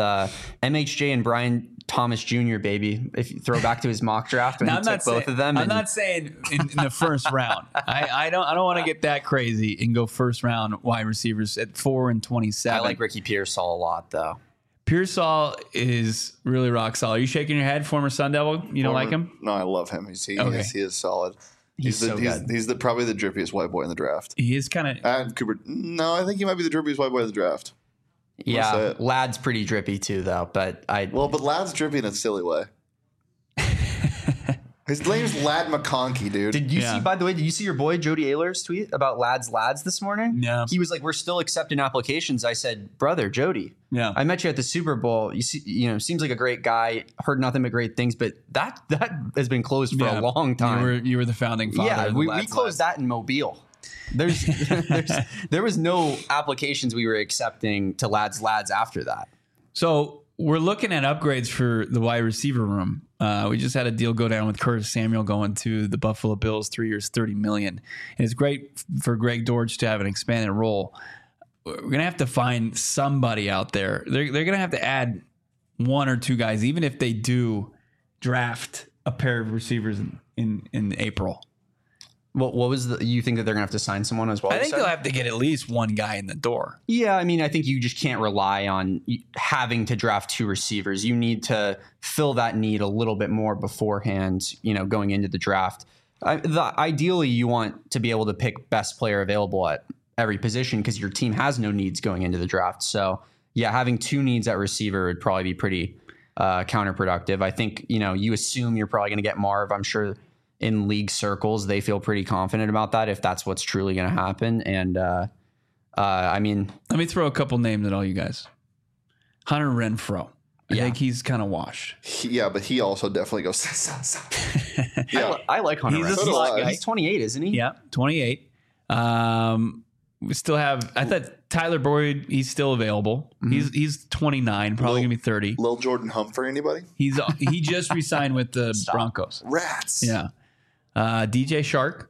MHJ and Brian Thomas Jr. baby. If you throw back to his mock draft when he took both of them. I'm not saying in the first round. I don't want to get that crazy and go first round wide receivers at 4 and 27. I like Ricky Pearsall a lot though. Pearsall is really rock solid. Are you shaking your head, former Sun Devil? You don't like him? No, I love him. He is solid. He's probably the drippiest white boy in the draft. He is kind of. And Cooper. No, I think he might be the drippiest white boy in the draft. Yeah, Ladd's pretty drippy too, though. But Ladd's drippy in a silly way. His name's Ladd McConkey, dude. Did you see? By the way, did you see your boy Jody Ayler's tweet about Lads this morning? Yeah. He was like, "We're still accepting applications." I said, "Brother, Jody, I met you at the Super Bowl. You see, seems like a great guy. Heard nothing but great things, but that has been closed for a long time. You were the founding father. Yeah, we closed that in Mobile. There was no applications we were accepting to Lads after that. So we're looking at upgrades for the wide receiver room. We just had a deal go down with Curtis Samuel going to the Buffalo Bills, 3 years, $30 million. And it's great for Greg Dortch to have an expanded role. We're going to have to find somebody out there. They're going to have to add 1 or 2 guys, even if they do draft a pair of receivers in April. What was you think that they're gonna have to sign someone as well? I think they'll have to get at least 1 guy in the door. Yeah, I mean, I think you just can't rely on having to draft 2 receivers. You need to fill that need a little bit more beforehand. Going into the draft. Ideally, you want to be able to pick best player available at every position because your team has no needs going into the draft. So yeah, having 2 needs at receiver would probably be pretty counterproductive. I think you assume you're probably going to get Marv. I'm sure. In league circles, they feel pretty confident about that if that's what's truly going to happen. And I mean, let me throw a couple names at all you guys. Hunter Renfrow. I think he's kind of washed. But he also definitely goes. Yeah, I like Hunter Renfrow. He's 28, isn't he? Yeah, 28. We still have. I thought Tyler Boyd. He's still available. Mm-hmm. He's 29, probably gonna be 30. Lil Jordan Humphrey, anybody? He just re-signed with the Broncos. Rats. Yeah. DJ Shark.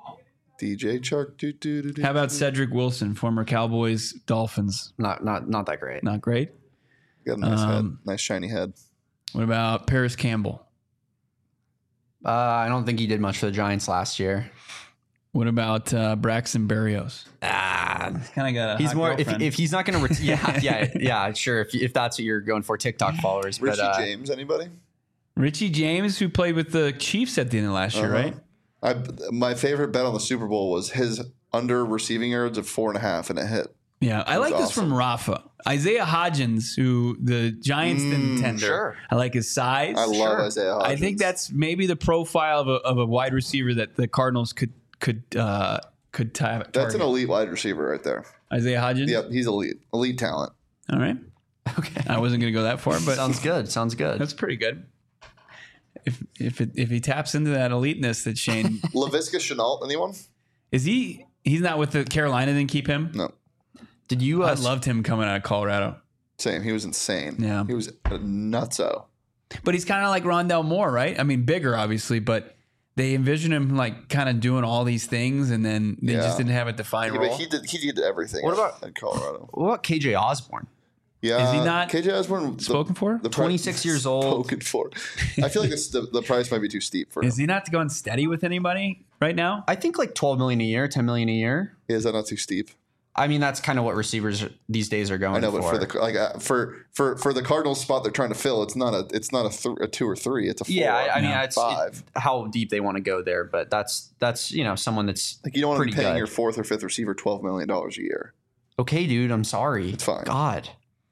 How about Cedric Wilson, former Cowboys, Dolphins? Not that great. Not great. Got a nice head, nice shiny head. What about Paris Campbell? I don't think he did much for the Giants last year. What about Braxton Berrios? Kind of got a He's hot more girlfriend. if he's not going to yeah, sure. If that's what you're going for, TikTok followers. Richie but, James, anybody? Richie James, who played with the Chiefs at the end of last year, right? My favorite bet on the Super Bowl was his under receiving yards of 4.5, and it hit. Yeah, I like this awesome. from Rafa. Isaiah Hodgins, who the Giants didn't tender. Sure. I like his size. I love Isaiah Hodgins. I think that's maybe the profile of a wide receiver that the Cardinals could target. That's an elite wide receiver right there. Isaiah Hodgins? Yep, he's elite talent. All right. Okay. I wasn't going to go that far, but Sounds good. that's pretty good. If he taps into that eliteness that Shane Laviska Shenault, anyone? he's not with the Carolina, then keep him. No, Did you? I loved him coming out of Colorado, same. He was insane. Yeah. he was a nutso. but he's kind of like Rondell Moore, right? I mean, bigger obviously, but they envision him like kind of doing all these things, and then they just didn't have a defined Yeah, role. but he did everything. What about- at Colorado? What about KJ Osborne? Yeah, Is he not KJ Osborne spoken for? The 26 years old. Spoken for. I feel like the price might be too steep for him. Is he not going steady with anybody right now? I think like $12 million a year, $10 million a year. Is that not too steep? I mean, that's kind of what receivers these days are going I know, for. but for the Cardinals spot they're trying to fill, it's not a 2 or 3. It's a 4. yeah, I mean, it's 5. how deep they want to go there, but that's someone that's Like you don't want to be pretty paying good. your 4th or 5th receiver $12 million a year. Okay, dude, I'm sorry. It's fine. God.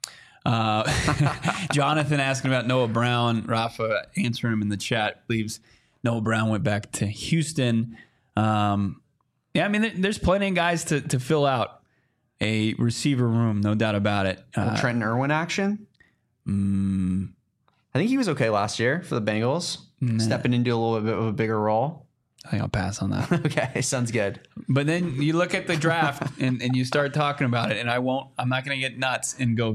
Jonathan asking about Noah Brown. Rafa answering him in the chat. Believes Noah Brown went back to Houston. Yeah, I mean, there's plenty of guys to fill out a receiver room, no doubt about it. Trenton Irwin action? I think he was okay last year for the Bengals, stepping into a little bit of a bigger role. I think I'll pass on that. Okay, sounds good. But then you look at the draft and you start talking about it, and I'm not going to get nuts and go,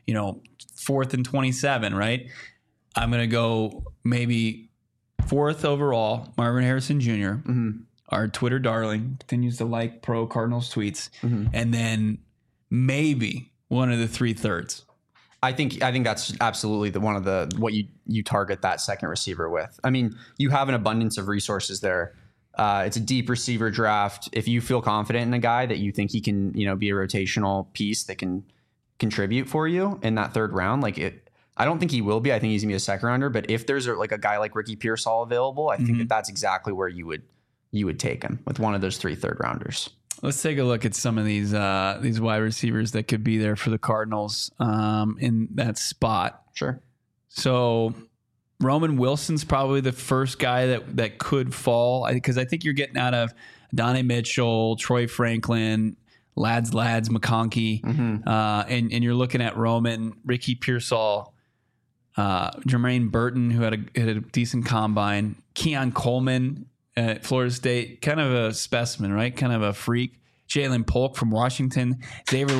4th and 27, right? I'm going to go maybe 4th overall, Marvin Harrison Jr., our Twitter darling, continues to like pro Cardinals tweets, and then maybe one of the 3/3. I think that's absolutely what you target that second receiver with. I mean, you have an abundance of resources there. It's a deep receiver draft. If you feel confident in a guy that you think he can, be a rotational piece that can contribute for you in that 3rd round, I don't think he will be. I think he's gonna be a 2nd rounder. But if there's a guy like Ricky Pearsall available, I think that's exactly where you would take him with one of those 3 3rd rounders. Let's take a look at some of these wide receivers that could be there for the Cardinals in that spot. Sure. So Roman Wilson's probably the first guy that could fall, because I think you're getting out of Donnie Mitchell, Troy Franklin, Lads, McConkey, and you're looking at Roman, Ricky Pearsall, Jermaine Burton, who had a decent combine, Keon Coleman at Florida State, kind of a specimen, right? Kind of a freak. Jalen Polk from Washington, Xavier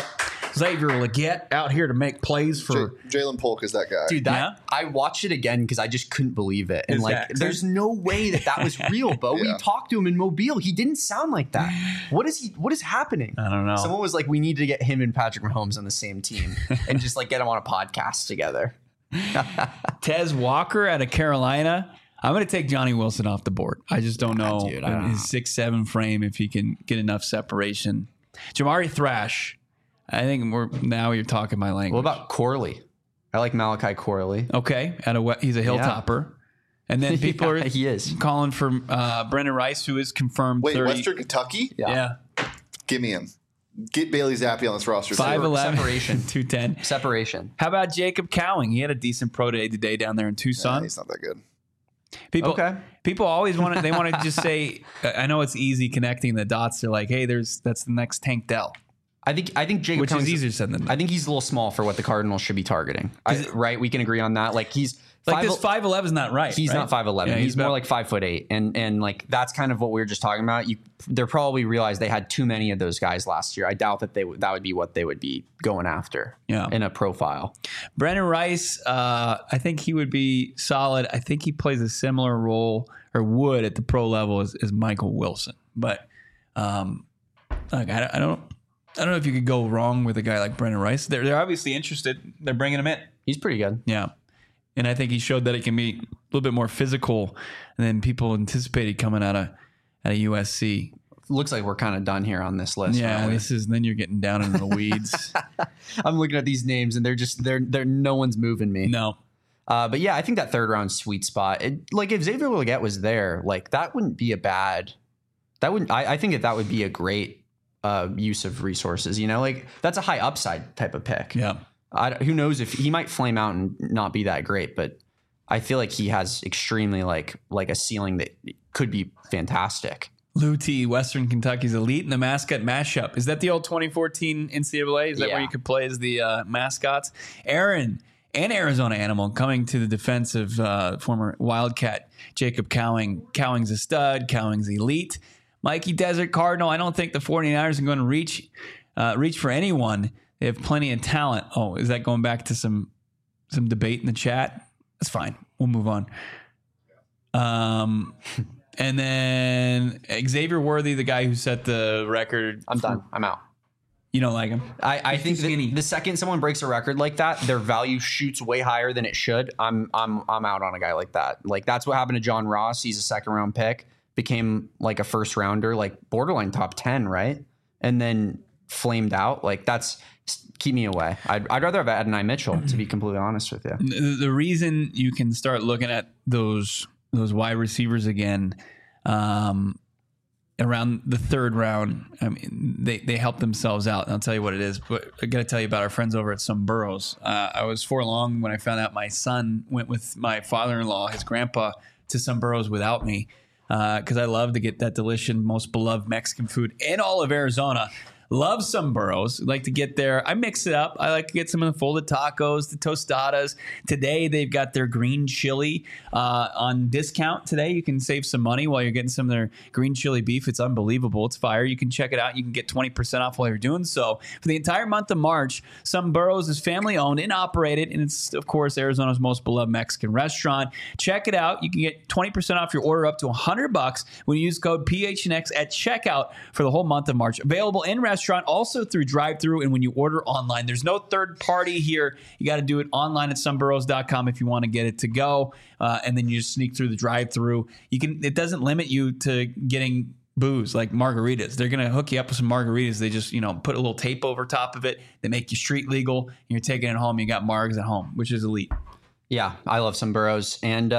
Legette out here to make plays for Jalen Polk is that guy. Dude, I watched it again because I just couldn't believe it. And there's no way that was real, Bo. We talked to him in Mobile. He didn't sound like that. What is happening? I don't know. Someone was like, we need to get him and Patrick Mahomes on the same team and just get them on a podcast together. Tez Walker out of Carolina. I'm going to take Johnny Wilson off the board. I just don't know dude, I don't his 6'7" frame if he can get enough separation. Jamari Thrash. I think now you're talking my language. What about Corley? I like Malachi Corley. Okay, he's a hilltopper. And then people are he is calling for Brendan Rice, who is confirmed. Wait, 30. Western Kentucky? Yeah. Give me him. Get Bailey Zappi on this roster. 5'11", Separation. 210. Separation. How about Jacob Cowing? He had a decent pro day today down there in Tucson. He's not that good. People always want to just say, I know it's easy connecting the dots. They're like, hey, that's the next Tank Dell. I think Jacob Which Cowing's is easier said than done. I think he's a little small for what the Cardinals should be targeting. Right? We can agree on that. Like he's this 5'11" is not right. He's right? not 5'11". Yeah, he's more about- like 5'8", and like that's kind of what we were just talking about. They're probably realized they had too many of those guys last year. I doubt that that would be what they would be going after. In a profile. Brendan Rice, I think he would be solid. I think he plays a similar role or would at the pro level as Michael Wilson. But I don't know if you could go wrong with a guy like Brendan Rice. They're obviously interested. They're bringing him in. He's pretty good. Yeah. And I think he showed that it can be a little bit more physical than people anticipated coming out of at a USC. Looks like we're kind of done here on this list. Yeah, then you're getting down into the weeds. I'm looking at these names and they're no one's moving me. No. But yeah, I think that third round sweet spot, if Xavier Legette was there, like that wouldn't be a bad. I think that would be a great use of resources. Like that's a high upside type of pick. Yeah. Who knows if he might flame out and not be that great, but I feel like he has extremely like a ceiling that could be fantastic. Lou T, Western Kentucky's elite in the mascot mashup. Is that the old 2014 NCAA? Is that where you could play as the mascots? Aaron, an Arizona animal, coming to the defense of former Wildcat Jacob Cowing. Cowing's a stud. Cowing's elite. Mikey Desert Cardinal, I don't think the 49ers are going to reach for anyone. They have plenty of talent. Oh, is that going back to some debate in the chat? That's fine. We'll move on. And then Xavier Worthy, the guy who set the record. I'm done. I'm out. You don't like him? I think the second someone breaks a record like that, their value shoots way higher than it should. I'm out on a guy like that. Like that's what happened to John Ross. He's a second round pick, became like a first rounder, like borderline top 10, right? And then flamed out. Like that's keep me away. I'd rather have Adonai Mitchell, to be completely honest with you. The reason you can start looking at those wide receivers again around the third round, I mean, they help themselves out. And I'll tell you what it is. But I got to tell you about our friends over at Some Burrows. I was forlorn when I found out my son went with my father-in-law, his grandpa, to Some Burrows without me because I love to get that delicious, most beloved Mexican food in all of Arizona. Love Some Burrows. Like to get there. I mix it up. I like to get some of the folded tacos, the tostadas. Today, they've got their green chili on discount. Today, you can save some money while you're getting some of their green chili beef. It's unbelievable. It's fire. You can check it out. You can get 20% off while you're doing so. For the entire month of March, Some Burrows is family-owned and operated, and it's, of course, Arizona's most beloved Mexican restaurant. Check it out. You can get 20% off your order up to $100 when you use code PHNX at checkout for the whole month of March. Available in restaurant, also through drive-thru, and when you order online. There's no third party here. You got to do it online at someburrows.com if you want to get it to go, and then you just sneak through the drive-thru. It doesn't limit you to getting booze like margaritas. They're going to hook you up with some margaritas. They just put a little tape over top of it. They make you street legal, and you're taking it home. You got margs at home, which is elite. Yeah, I love Some Burrows, and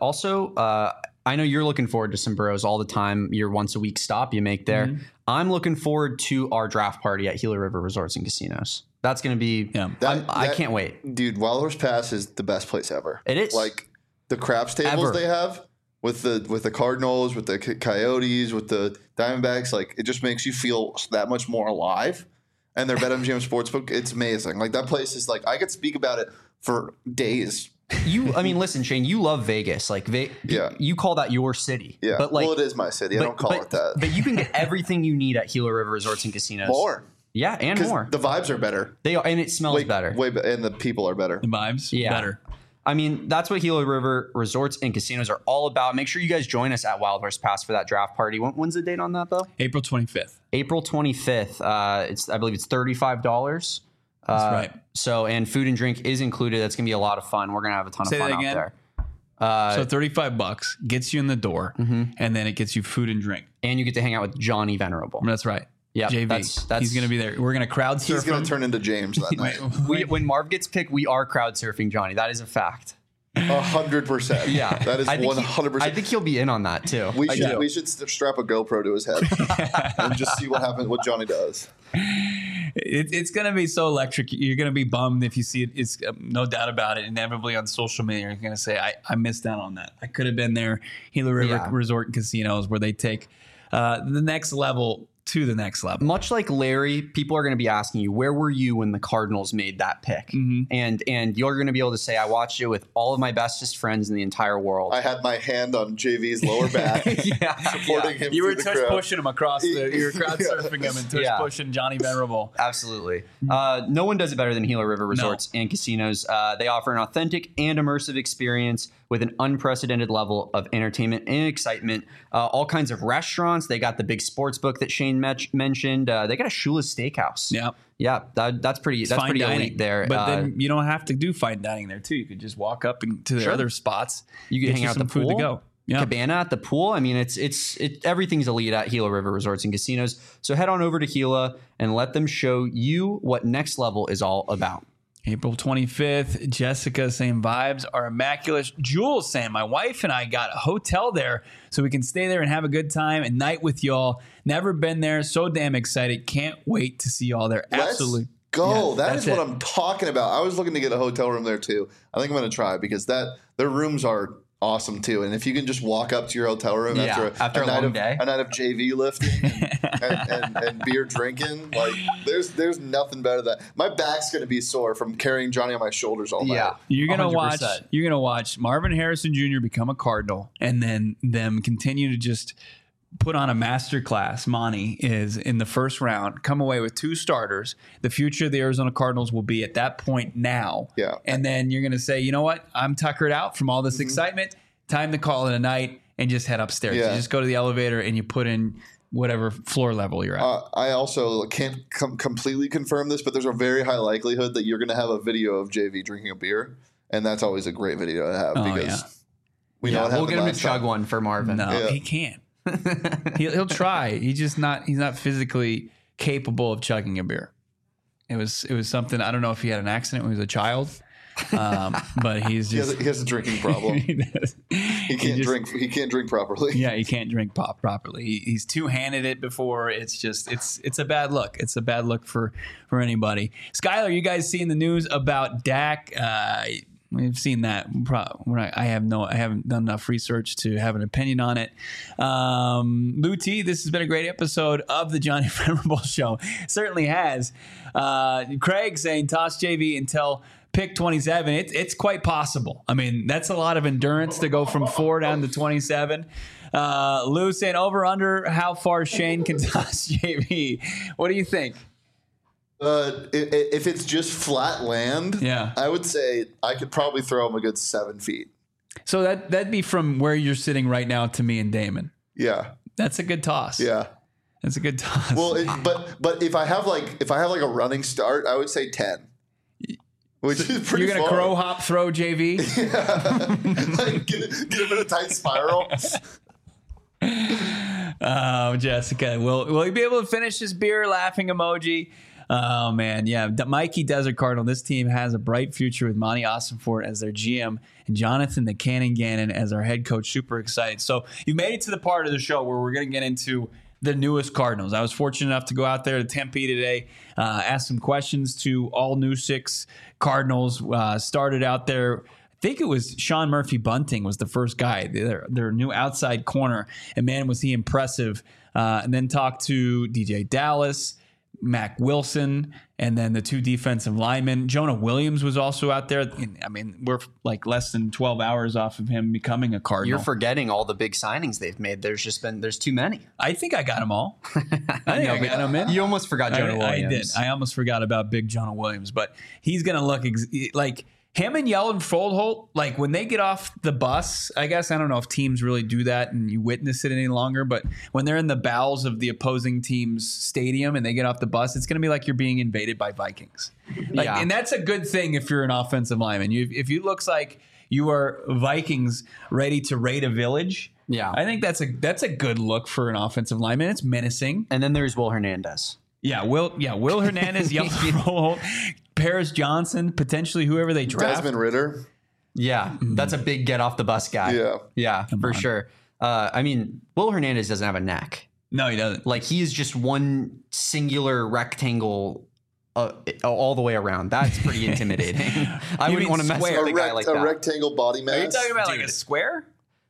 also. I know you're looking forward to Some Burrows all the time. Your once a week stop you make there. Mm-hmm. I'm looking forward to our draft party at Gila River Resorts and Casinos. That's going to be. Yeah. I can't wait, dude. Wild Horse Pass is the best place ever. It is like the craps tables they have with the Cardinals, with the Coyotes, with the Diamondbacks. Like it just makes you feel that much more alive. And their BetMGM Sportsbook, it's amazing. Like that place is like I could speak about it for days. Listen, Shane, you love Vegas. Like, you call that your city. Yeah. But like, well, it is my city. I don't call it that. But you can get everything you need at Gila River Resorts and Casinos. More. Yeah, and more. The vibes are better. They are, and it smells better. And the people are better. The vibes, better. I mean, that's what Gila River Resorts and Casinos are all about. Make sure you guys join us at Wild Horse Pass for that draft party. When's the date on that, though? April 25th. April 25th. I believe it's $35. That's right. So, and food and drink is included. That's going to be a lot of fun. We're going to have a ton of fun out there. So $35 gets you in the door, and then it gets you food and drink. And you get to hang out with Johnny Venerable. That's right. Yeah, JV. That's he's going to be there. We're going to crowd surf. He's going to turn into James that night. When Marv gets picked, we are crowd surfing Johnny. That is a fact. 100%. Yeah, that is 100%. I think he'll be in on that too. We should strap a GoPro to his head and just see what happens. What Johnny does. It's going to be so electric. You're going to be bummed if you see it. It's no doubt about it. Inevitably on social media, you're going to say, "I missed out on that. I could have been there." Gila River Resort and Casinos, where they take the next level. To the next level. Much like Larry, people are going to be asking you, where were you when the Cardinals made that pick? Mm-hmm. And you're going to be able to say, I watched it with all of my bestest friends in the entire world. I had my hand on JV's lower back, supporting him. You were tush pushing him across you were crowd surfing him and tush pushing Johnny Venerable. Absolutely. No one does it better than Gila River Resorts and Casinos. They offer an authentic and immersive experience with an unprecedented level of entertainment and excitement. All kinds of restaurants. They got the big sports book that Shane mentioned. They got a Shula's Steakhouse. Yeah, that's pretty elite there. But then you don't have to do fine dining there too. You could just walk up to the other spots. You can hang out at the pool. Food to go. cabana at the pool. I mean, it's everything's elite at Gila River Resorts and Casinos. So head on over to Gila and let them show you what next level is all about. April 25th, Jessica saying vibes are immaculate. Jules saying my wife and I got a hotel there so we can stay there and have a good time and night with y'all. Never been there. So damn excited. Can't wait to see y'all there. Absolutely. Go. Yeah, that is what I'm talking about. I was looking to get a hotel room there too. I think I'm going to try because their rooms are awesome too. And if you can just walk up to your hotel room after a long day, a night of JV lifting and beer drinking, like there's nothing better than that. My back's going to be sore from carrying Johnny on my shoulders all night. Yeah, you're gonna watch Marvin Harrison Jr. become a Cardinal, and then them continue to just put on a masterclass. Monty is in the first round, come away with 2 starters. The future of the Arizona Cardinals will be at that point now. Yeah. And then you're going to say, you know what? I'm tuckered out from all this excitement. Time to call it a night and just head upstairs. Yeah. You just go to the elevator and you put in whatever floor level you're at. I also can't completely confirm this, but there's a very high likelihood that you're going to have a video of JV drinking a beer. And that's always a great video to have because we know what happened. We'll get him to chug time. one for Marvin. No, he can't. He'll try. He's not physically capable of chugging a beer. It was something. I don't know if he had an accident when he was a child, but he's just he has a drinking problem. He can't drink. He can't drink properly. Yeah, he can't drink pop properly. He's two-handed it before. It's just it's a bad look. It's a bad look for anybody. Skylar, you guys seen the news about Dak? We've seen that. I haven't done enough research to have an opinion on it. Lou T, this has been a great episode of the Johnny Venerable Show. It certainly has. Craig saying toss JV until pick 27. It's quite possible. I mean, that's a lot of endurance to go from 4 down to 27. Lou saying over under how far Shane can toss JV. What do you think? If it's just flat land, I would say I could probably throw him a good 7 feet. So that'd be from where you're sitting right now to me and Damon. Yeah, that's a good toss. Yeah, that's a good toss. Well, but if I have like a running start, I would say 10. Which is pretty. You're gonna crow hop throw JV. Yeah. Like, get him in a tight spiral. Oh, Jessica, will he be able to finish his beer? Laughing emoji. Oh, man. Yeah. Mikey Desert Cardinal. This team has a bright future with Monty Ossenfort as their GM and Jonathan the Cannon Gannon as our head coach. Super excited. So you made it to the part of the show where we're going to get into the newest Cardinals. I was fortunate enough to go out there to Tempe today, ask some questions to all new 6 Cardinals. Started out there. I think it was Sean Murphy Bunting was the first guy, their new outside corner. And, man, was he impressive. And then talked to DJ Dallas, Mac Wilson, and then the 2 defensive linemen. Jonah Williams was also out there. I mean, we're like less than 12 hours off of him becoming a Cardinal. You're forgetting all the big signings they've made. There's too many. I think I got them all. I got them in. You almost forgot Jonah Williams. I did. I almost forgot about big Jonah Williams, but he's going to look like him and Yeldon Foldholt, like when they get off the bus, I guess, I don't know if teams really do that and you witness it any longer, but when they're in the bowels of the opposing team's stadium and they get off the bus, it's going to be like you're being invaded by Vikings. And that's a good thing if you're an offensive lineman. If you looks like you are Vikings ready to raid a village, I think that's a good look for an offensive lineman. It's menacing. And then there's Will Hernandez. Will Hernandez, Yeldon Foldholt, Paris Johnson, potentially whoever they draft. Desmond Ridder. Yeah, that's a big get off the bus guy. Yeah, for sure. I mean, Will Hernandez doesn't have a neck. No, he doesn't. Like, he's just one singular rectangle all the way around. That's pretty intimidating. I wouldn't want to mess with a guy like that. A rectangle body mass. Are you talking about like a square?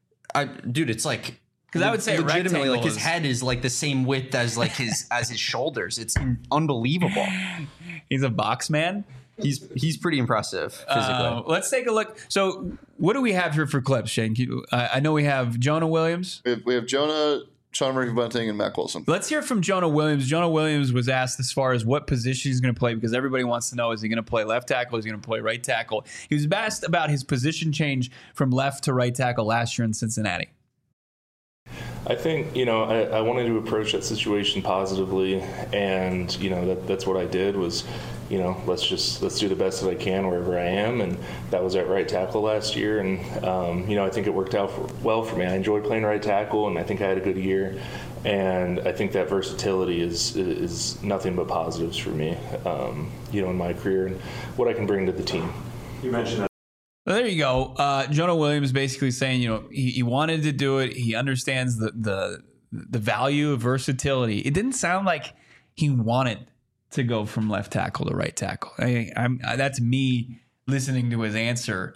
Dude, it's like... Because I would say legitimately, like his head is like the same width as like his shoulders. It's unbelievable. He's a box man. He's pretty impressive physically. Let's take a look. So, what do we have here for clips, Shane? I know we have Jonah Williams. We have Jonah, Sean Murphy Bunting, and Mac Wilson. Let's hear from Jonah Williams. Jonah Williams was asked as far as what position he's going to play because everybody wants to know, is he going to play left tackle? Is he going to play right tackle? He was asked about his position change from left to right tackle last year in Cincinnati. I think, I wanted to approach that situation positively, and, that's what I did was, let's do the best that I can wherever I am, and that was at right tackle last year, and, I think it worked out well for me. I enjoyed playing right tackle, and I think I had a good year, and I think that versatility is nothing but positives for me, in my career and what I can bring to the team. You mentioned that. Well, there you go. Jonah Williams basically saying, he wanted to do it. He understands the value of versatility. It didn't sound like he wanted to go from left tackle to right tackle. That's me listening to his answer.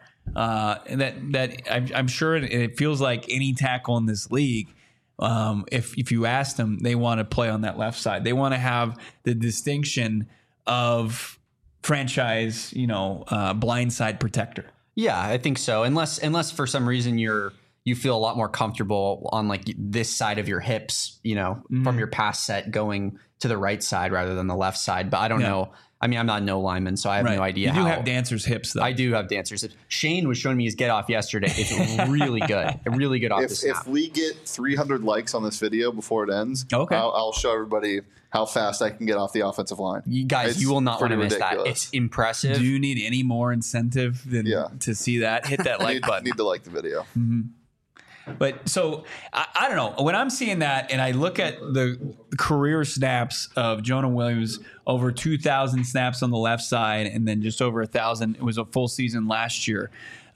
I'm sure it feels like any tackle in this league. If you ask them, they want to play on that left side. They want to have the distinction of franchise, blindside protector. Yeah, I think so. Unless for some reason you feel a lot more comfortable on like this side of your hips, from your pass set going to the right side rather than the left side. But I don't know. I mean, I'm not no lineman, so I have no idea. You do have dancer's hips, though. I do have dancer's hips. Shane was showing me his get off yesterday. It's really good. Really good off the snap. If we get 300 likes on this video before it ends, I'll show everybody how fast I can get off the offensive line. You guys, you will not want to miss that. It's impressive. Do you need any more incentive than to see that? Hit that like button. Need to like the video. Mm-hmm. But so I don't know, when I'm seeing that and I look at the career snaps of Jonah Williams, over 2,000 snaps on the left side, and then just over 1,000. It was a full season last year.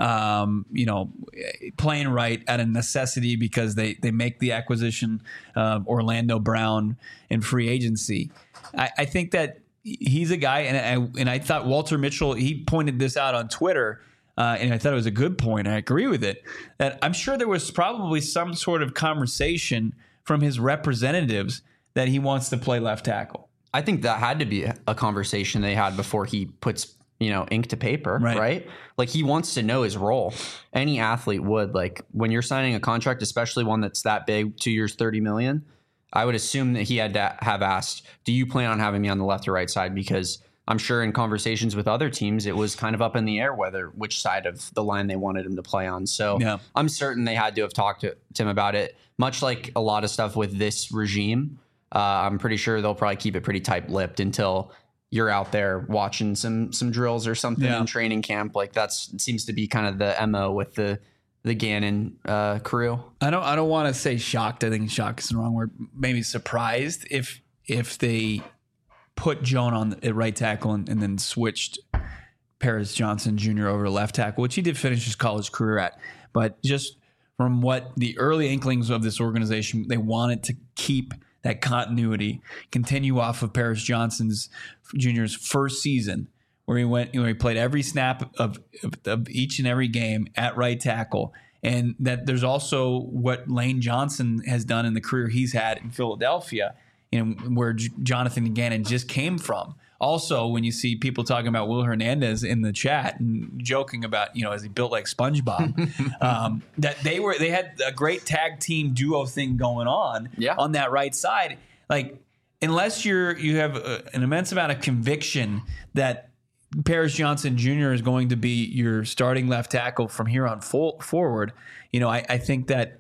Playing right at a necessity because they make the acquisition of Orlando Brown in free agency. I think that he's a guy, and I thought Walter Mitchell, he pointed this out on Twitter. And I thought it was a good point. I agree with it. That I'm sure there was probably some sort of conversation from his representatives that he wants to play left tackle. I think that had to be a conversation they had before he puts, ink to paper, right? Like he wants to know his role. Any athlete would. Like when you're signing a contract, especially one that's that big, 2 years, $30 million, I would assume that he had to have asked, do you plan on having me on the left or right side? Because I'm sure in conversations with other teams, it was kind of up in the air which side of the line they wanted him to play on. So I'm certain they had to have talked to him about it, much like a lot of stuff with this regime. I'm pretty sure they'll probably keep it pretty tight-lipped until you're out there watching some drills or something in training camp. Like that seems to be kind of the MO with the Gannon crew. I don't want to say shocked. I think shocked is the wrong word. Maybe surprised if they put Jonah on the right tackle and then switched Paris Johnson Jr. over to left tackle, which he did finish his college career at. But just from what the early inklings of this organization, they wanted to keep that continuity, continue off of Paris Johnson's Jr.'s first season, where he played every snap of each and every game at right tackle. And that there's also what Lane Johnson has done in the career he's had in Philadelphia, where Jonathan Gannon just came from. Also, when you see people talking about Will Hernandez in the chat and joking about, is he built like SpongeBob, that they had a great tag team duo thing going on that right side. Like, unless you have an immense amount of conviction that Paris Johnson Jr. is going to be your starting left tackle from here on forward, I think that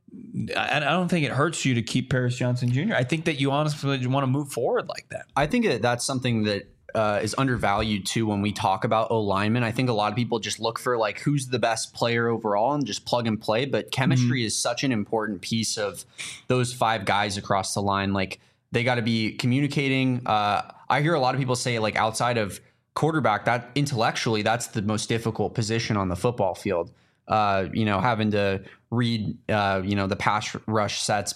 I don't think it hurts you to keep Paris Johnson Jr. I think that you honestly want to move forward like that. I think that's something that is undervalued too when we talk about O-linemen. I think a lot of people just look for like who's the best player overall and just plug and play. But chemistry is such an important piece of those five guys across the line. Like they got to be communicating. I hear a lot of people say like outside of quarterback, that intellectually that's the most difficult position on the football field. Having to read, the pass rush sets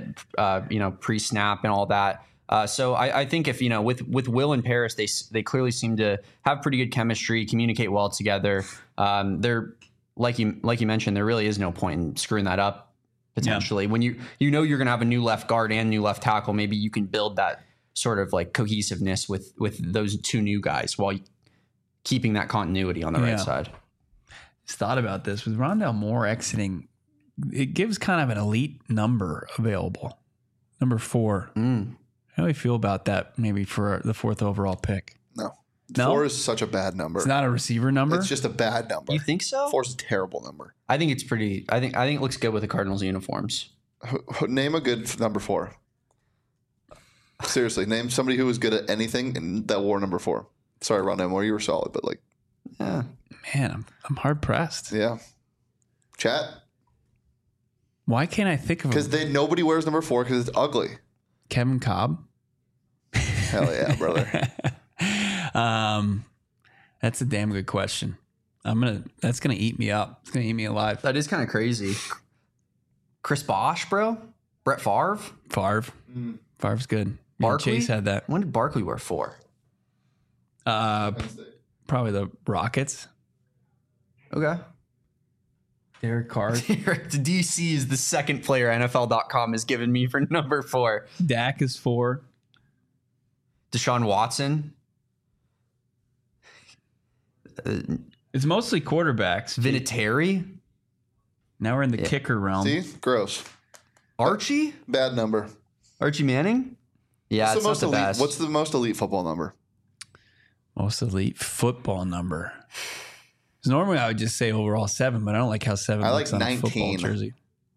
that, pre-snap and all that. So I think if, with Will and Paris, they clearly seem to have pretty good chemistry, communicate well together. They're like you mentioned, there really is no point in screwing that up potentially. When you're going to have a new left guard and new left tackle, maybe you can build that sort of like cohesiveness with those two new guys while keeping that continuity on the right side. Thought about this with Rondale Moore exiting, it gives kind of an elite number available, number 4. How do we feel about that? Maybe for the 4th overall pick. No, 4 is such a bad number. It's not a receiver number. It's just a bad number. You think so? 4 is a terrible number. I think it's pretty. I think it looks good with the Cardinals uniforms. Name a good number 4. Seriously, name somebody who was good at anything and that wore number 4. Sorry, Ron Moore, you were solid, but like, Yeah. Man, I'm hard pressed. yeah. Chat, Why can't I think of because nobody wears number 4 because it's ugly. Kevin Cobb? Hell yeah, brother. That's a damn good question. That's gonna eat me up. It's gonna eat me alive. That is kind of crazy. Chris Bosh, bro. Brett Favre. Favre. Favre's good. Yeah, Barkley? Chase had that. When did Barkley wear 4? Probably the Rockets. Okay. Derek Carr. The DC is the second player NFL.com has given me for number 4. Dak is 4. Deshaun Watson. It's mostly quarterbacks. Vinatieri. Now we're in the kicker realm. See? Gross. Archie. Bad number. Archie Manning. Yeah, it's not the elite, best. What's the most elite football number? Most elite football number. 'Cause normally I would just say overall 7, but I don't like how 7 I looks like on a football 19. jersey.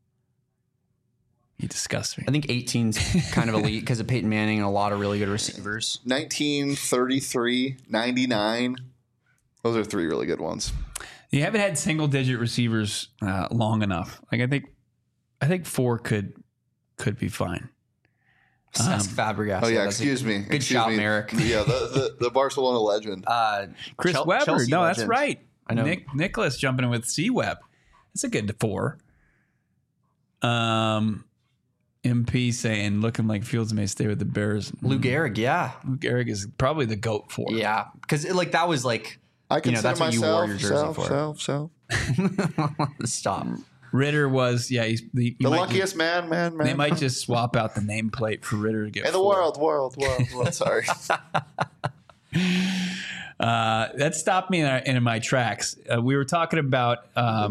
You disgust me. I think 18's kind of elite because of Peyton Manning and a lot of really good receivers. 19, 33, 99. Those are 3 really good ones. You haven't had single digit receivers long enough. Like I think 4 could be fine. Ask Fabregas. Oh, yeah, that's excuse me. Good Excuse shout, me. Merrick. Yeah, the Barcelona legend. Chris Webber. Chelsea No, that's legend. right. I know. Nicholas jumping in with C-Web. That's a good 4. MP saying, looking like Fields may stay with the Bears. Lou Gehrig, yeah. Lou Gehrig is probably the GOAT 4. Yeah, because like that was like, I consider that's what you wore myself, your jersey for. Stop. Ritter was, yeah, he's the luckiest man. They might just swap out the nameplate for Ritter to get in the 4. world. Sorry. That stopped me in my tracks. We were talking about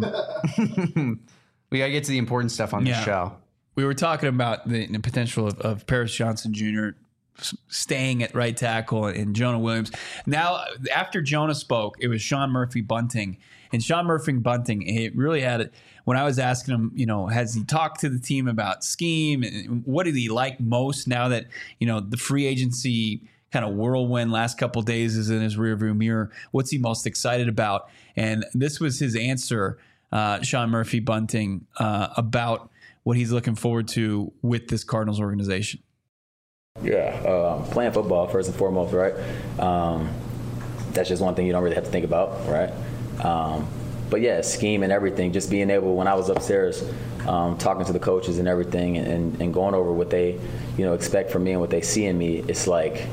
We gotta get to the important stuff on the show. We were talking about the potential of Paris Johnson Jr. staying at right tackle and Jonah Williams. Now, after Jonah spoke, it was Sean Murphy-Bunting. And Sean Murphy-Bunting, it really had it. When I was asking him, has he talked to the team about scheme? And what did he like most now that, the free agency kind of whirlwind last couple of days is in his rearview mirror? What's he most excited about? And this was his answer, Sean Murphy-Bunting, about what he's looking forward to with this Cardinals organization. Yeah, playing football first and foremost, right? That's just one thing you don't really have to think about, right? But yeah, scheme and everything, just being able, when I was upstairs talking to the coaches and everything and going over what they, expect from me and what they see in me, it's like,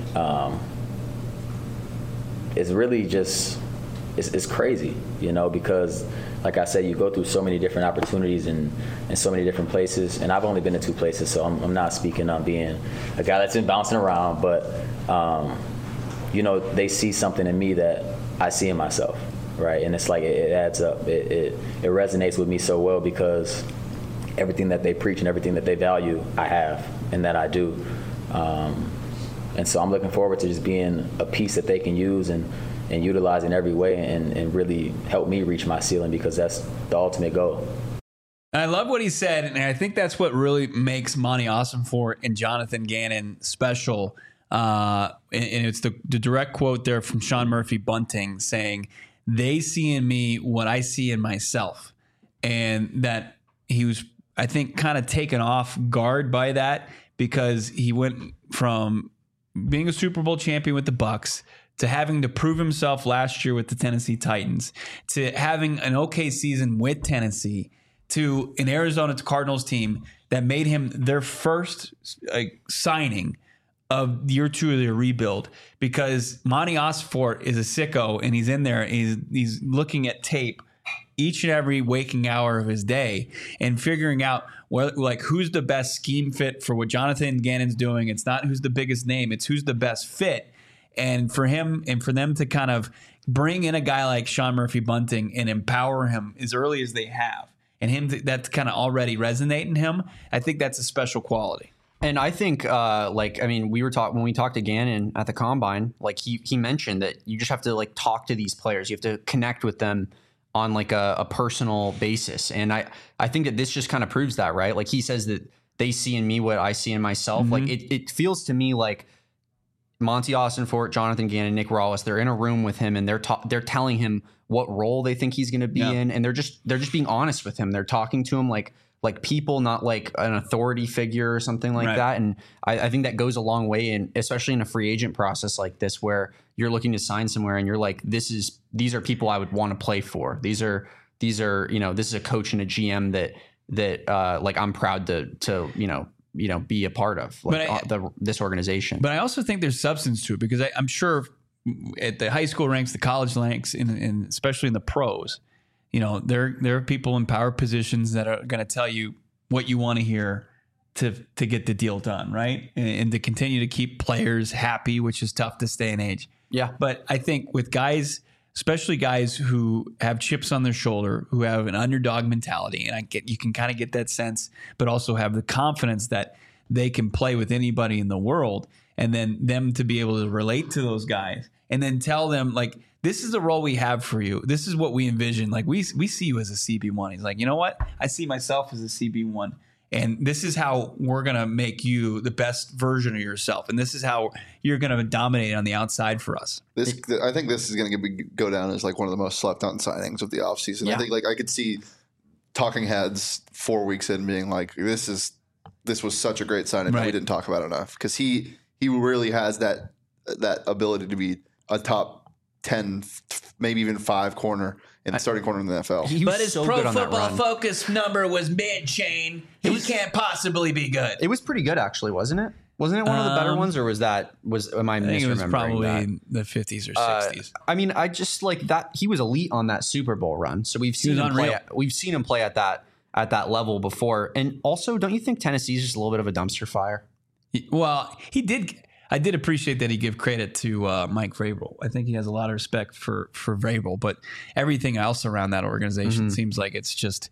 it's really just, it's crazy, because like I said, you go through so many different opportunities and so many different places. And I've only been to 2 places, so I'm not speaking on being a guy that's been bouncing around. But, they see something in me that I see in myself, right? And it's like it adds up. It resonates with me so well because everything that they preach and everything that they value, I have and that I do. And so I'm looking forward to just being a piece that they can use and utilize in every way and really help me reach my ceiling, because that's the ultimate goal. I love what he said, and I think that's what really makes Monty Ossenfort and Jonathan Gannon special. And it's the direct quote there from Sean Murphy-Bunting saying, they see in me what I see in myself. And that he was, I think, kind of taken off guard by that, because he went from being a Super Bowl champion with the Bucs to having to prove himself last year with the Tennessee Titans, to having an okay season with Tennessee, to an Arizona Cardinals team that made him their first signing of year 2 of their rebuild, because Monty Ossenfort is a sicko and he's in there and he's looking at tape each and every waking hour of his day and figuring out who's the best scheme fit for what Jonathan Gannon's doing. It's not who's the biggest name, it's who's the best fit. And for him and for them to kind of bring in a guy like Sean Murphy-Bunting and empower him as early as they have, and him that's kind of already resonating him, I think that's a special quality. And I think, we were talking when we talked to Gannon at the Combine. Like he mentioned that you just have to talk to these players. You have to connect with them on like a personal basis. And I think that this just kind of proves that, right? Like he says that they see in me what I see in myself. Like it feels to me like Monty Austinfort, Jonathan Gannon, Nick Rallis, they're in a room with him and they're telling him what role they think he's going to be in. And they're just being honest with him. They're talking to him like people, not like an authority figure or something like that. And I think that goes a long way, and especially in a free agent process like this, where you're looking to sign somewhere and you're like, these are people I would want to play for. These are, this is a coach and a GM that like I'm proud to be a part of, like this organization. But I also think there's substance to it, because I'm sure at the high school ranks, the college ranks, and especially in the pros, there are people in power positions that are going to tell you what you want to hear to get the deal done, right? And to continue to keep players happy, which is tough this day and age. Yeah. But I think with guys, especially guys who have chips on their shoulder, who have an underdog mentality, and you can kind of get that sense, but also have the confidence that they can play with anybody in the world, and then them to be able to relate to those guys and then tell them, like, this is the role we have for you. This is what we envision. Like, we see you as a CB1. He's like, you know what? I see myself as a CB1. And this is how we're going to make you the best version of yourself. And this is how you're going to dominate on the outside for us. I think this is going to go down as like one of the most slept on signings of the offseason. Yeah. I think I could see talking heads 4 weeks in being like, this was such a great signing that we didn't talk about enough. Because he really has that ability to be a top 10, maybe even 5 corner in the starting corner in the NFL. But his Pro Football Focus number was mid-chain. He can't possibly be good. It was pretty good, actually, wasn't it? Wasn't it one of the better ones, or am I misremembering that? It was probably the 50s or 60s. I mean, I just like that he was elite on that Super Bowl run. So we've seen him play at that level before. And also, don't you think Tennessee's just a little bit of a dumpster fire? Well, I did appreciate that he gave credit to Mike Vrabel. I think he has a lot of respect for Vrabel, but everything else around that organization seems like it's just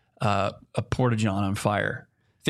a porta-john on fire.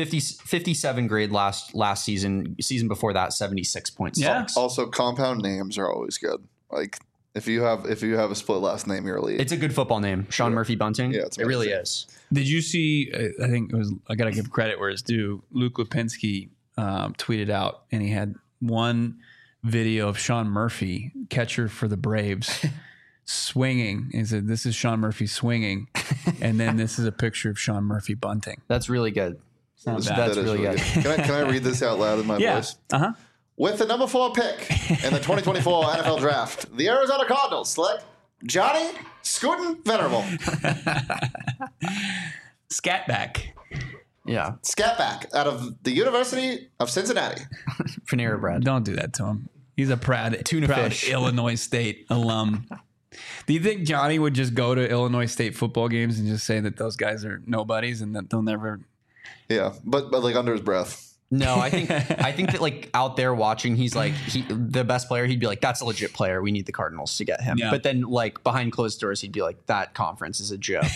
57 grade last season. Season before that, 76.6. Yeah. Also, compound names are always good. Like if you have a split last name, you're elite. It's a good football name, Sean Murphy Bunting. Yeah, it really is. Did you see? I think it was. I got to give credit where it's due. Luke Lipinski tweeted out, and he had one video of Sean Murphy, catcher for the Braves, swinging. He said, "This is Sean Murphy swinging," and then this is a picture of Sean Murphy bunting. That's really good. That's really good. Can I read this out loud in my voice? Uh-huh. With the number 4 pick in the 2024 NFL Draft, the Arizona Cardinals select Johnny Scootin' Venerable. Scatback. Yeah. Scatback out of the University of Cincinnati. Panera Bread. Don't do that to him. He's a proud fish. Illinois State alum. Do you think Johnny would just go to Illinois State football games and just say that those guys are nobodies and that they'll never... Yeah, but like under his breath. No, I think that like out there watching, he's like the best player. He'd be like, that's a legit player. We need the Cardinals to get him. Yeah. But then like behind closed doors, he'd be like, that conference is a joke.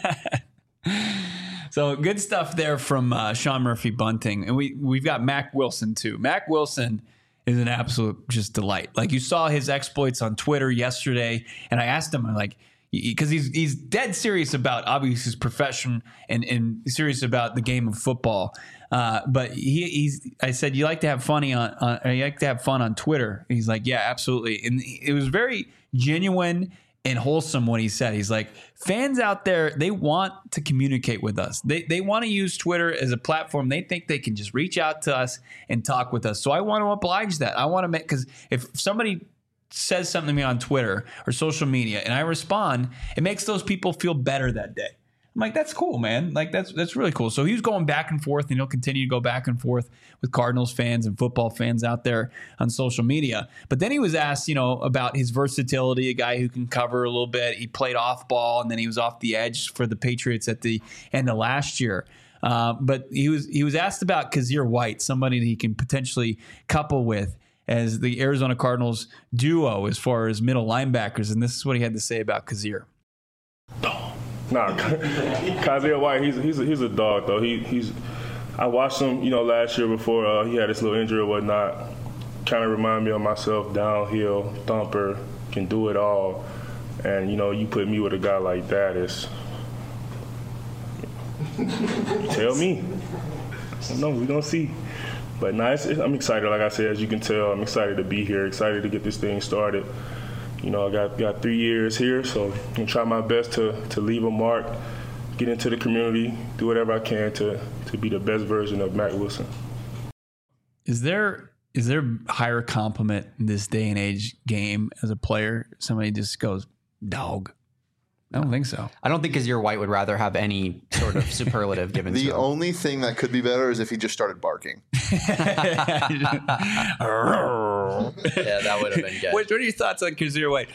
So good stuff there from Sean Murphy Bunting. And we've got Mack Wilson too. Mack Wilson is an absolute just delight. Like you saw his exploits on Twitter yesterday. And I asked him, I'm like, because he's dead serious about obviously his profession and serious about the game of football. But I said, you like to have fun on Twitter? And he's like, yeah, absolutely. And it was very genuine and wholesome what he said. He's like, fans out there, they want to communicate with us. They want to use Twitter as a platform. They think they can just reach out to us and talk with us. So I want to oblige that. I want to because if somebody says something to me on Twitter or social media and I respond, it makes those people feel better that day. I'm like, that's cool, man. Like that's really cool. So he was going back and forth, and he'll continue to go back and forth with Cardinals fans and football fans out there on social media. But then he was asked, about his versatility, a guy who can cover a little bit. He played off ball, and then he was off the edge for the Patriots at the end of last year. But he was asked about Kazir White, somebody that he can potentially couple with as the Arizona Cardinals duo as far as middle linebackers. And this is what he had to say about Kazir. Nah, Kazir White, he's a dog though. I watched him, last year before he had his little injury or whatnot. Kind of remind me of myself, downhill, thumper, can do it all. And, you put me with a guy like that, tell me. No, we're going to see. But I'm excited, like I said, as you can tell. I'm excited to be here, excited to get this thing started. I got 3 years here, so I'm going to try my best to leave a mark, get into the community, do whatever I can to be the best version of Mack Wilson. Is there higher compliment in this day and age game as a player? Somebody just goes, dog. I don't think so. I don't think Kazir White would rather have any sort of superlative given to him. The only thing that could be better is if he just started barking. Yeah, that would have been good. What are your thoughts on Kazir White?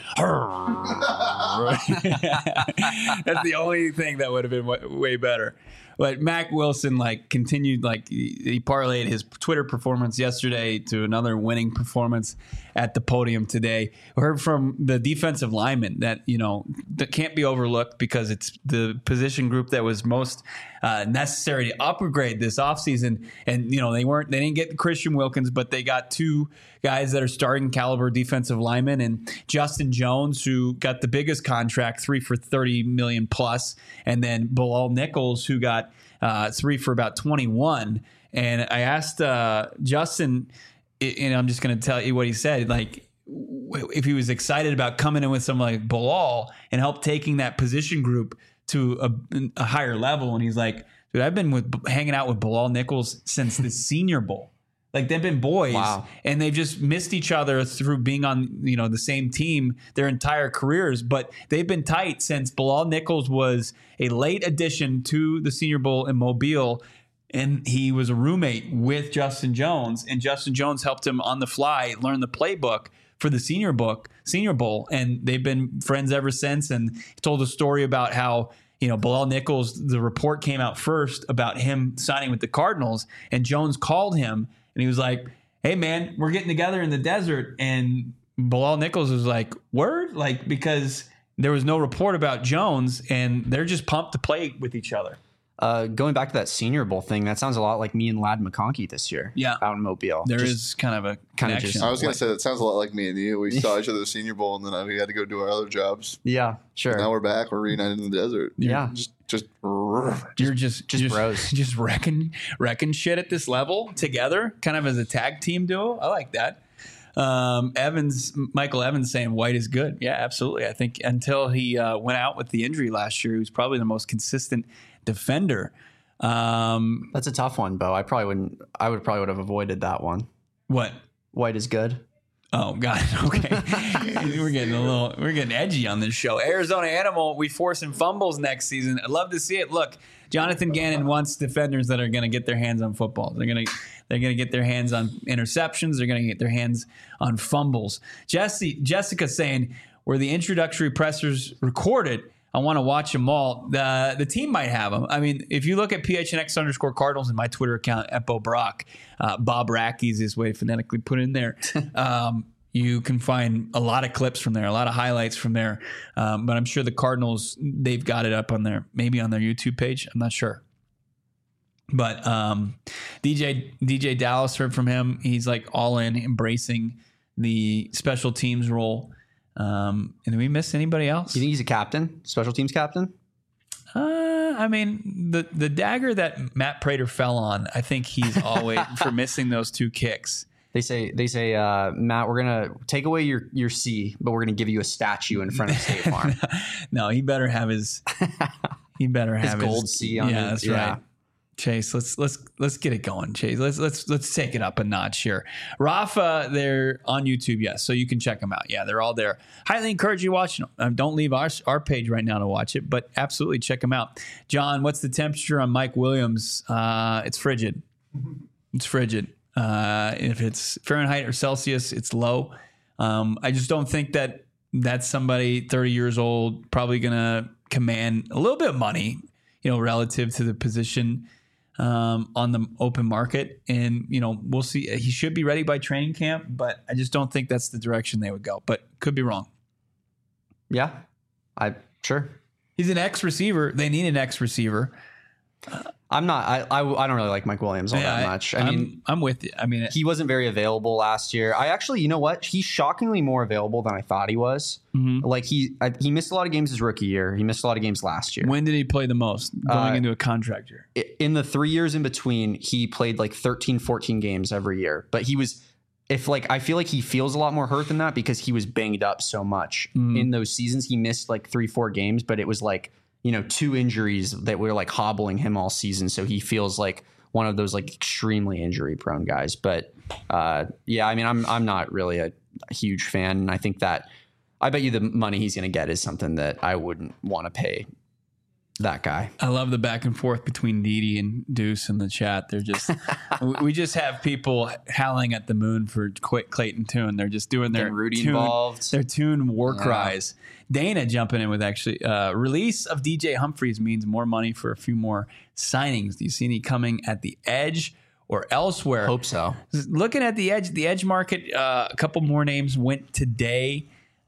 That's the only thing that would have been way better. But Mack Wilson continued, he parlayed his Twitter performance yesterday to another winning performance at the podium today. We heard from the defensive lineman that that can't be overlooked because it's the position group that was most necessary to upgrade this offseason. And they didn't get Christian Wilkins, but they got two guys that are starting caliber defensive linemen, and Justin Jones, who got the biggest contract, 3 for $30 million plus, and then Bilal Nichols, who got 3 for about 21. And I asked Justin, and I'm just going to tell you what he said, if he was excited about coming in with someone like Bilal and help taking that position group to a higher level. And he's like, dude, I've been hanging out with Bilal Nichols since the Senior Bowl. They've been boys, wow. And they've just missed each other through being on the same team their entire careers. But they've been tight since Bilal Nichols was a late addition to the Senior Bowl in Mobile, and he was a roommate with Justin Jones, and Justin Jones helped him on the fly learn the playbook for the Senior Bowl, and they've been friends ever since. And he told a story about how Bilal Nichols, the report came out first about him signing with the Cardinals, and Jones called him. And he was like, hey, man, we're getting together in the desert. And Bilal Nichols was like, word? Because there was no report about Jones, and they're just pumped to play with each other. Going back to that Senior Bowl thing, that sounds a lot like me and Ladd McConkey this year. Yeah, out in Mobile. There is kind of a connection. I was going to say that sounds a lot like me and you. We saw each other at the Senior Bowl, and then we had to go do our other jobs. Yeah, sure. And now we're back. We're reunited in the desert. Yeah, you're just bros, just wrecking shit at this level together, kind of as a tag team duo. I like that. Michael Evans saying White is good. Yeah, absolutely. I think until he went out with the injury last year, he was probably the most consistent defender. That's a tough one, Bo. I would probably have avoided that one. What? White is good. Oh God. Okay. we're getting edgy on this show. Arizona Animal, we forcing fumbles next season. I'd love to see it. Look, Jonathan Gannon wants defenders that are going to get their hands on footballs. They're going to get their hands on interceptions. They're going to get their hands on fumbles. Jessica saying, were the introductory pressers recorded? I want to watch them all. The team might have them. I mean, if you look at PHNX_Cardinals in my Twitter account at Bo Brock, Bob Rack, easiest way to phonetically put it in there. You can find a lot of clips from there, a lot of highlights from there. But I'm sure the Cardinals, they've got it up on maybe on their YouTube page. I'm not sure. But DJ Dallas, heard from him. He's all in, embracing the special teams role. And did we miss anybody else? You think he's a captain, special teams captain? I mean, the dagger that Matt Prater fell on, I think he's always for missing those 2 kicks. They say, Matt, we're gonna take away your C, but we're gonna give you a statue in front of State Farm. No, he better have his. He better have his gold C on. Yeah, that's right. Chase, let's get it going, Chase. Let's take it up a notch here. Rafa, they're on YouTube, yes, so you can check them out. Yeah, they're all there. Highly encourage you to watch them. Don't leave our page right now to watch it, but absolutely check them out. John, what's the temperature on Mike Williams? It's frigid. It's frigid. If it's Fahrenheit or Celsius, it's low. I just don't think that's somebody 30 years old, probably gonna command a little bit of money, relative to the position on the open market. And, we'll see. He should be ready by training camp, but I just don't think that's the direction they would go. But could be wrong. Yeah, sure. He's an X receiver. They need an X receiver. I'm not. I don't really like Mike Williams all that much. I mean, I'm with you. I mean, he wasn't very available last year. I actually, you know what? He's shockingly more available than I thought he was. Mm-hmm. Like he missed a lot of games his rookie year. He missed a lot of games last year. When did he play the most? Going into a contract year. In the 3 years in between, he played like 13, 14 games every year. But he was, I feel like he feels a lot more hurt than that because he was banged up so much in those seasons. He missed like 3-4 games, but it was like, 2 injuries that were like hobbling him all season. So he feels like one of those like extremely injury prone guys. But yeah, I mean, I'm not really a huge fan. And I think that I bet you the money he's going to get is something that I wouldn't want to pay that guy. I love the back and forth between Didi and Deuce in the chat. They're just, we just have people howling at the moon for Clayton Tune. They're just doing their Rudy Tune, involved. Their Tune war cries. Dana jumping in with actually release of DJ Humphries means more money for a few more signings. Do you see any coming at the edge or elsewhere? Hope so. Looking at the edge market, a couple more names went today.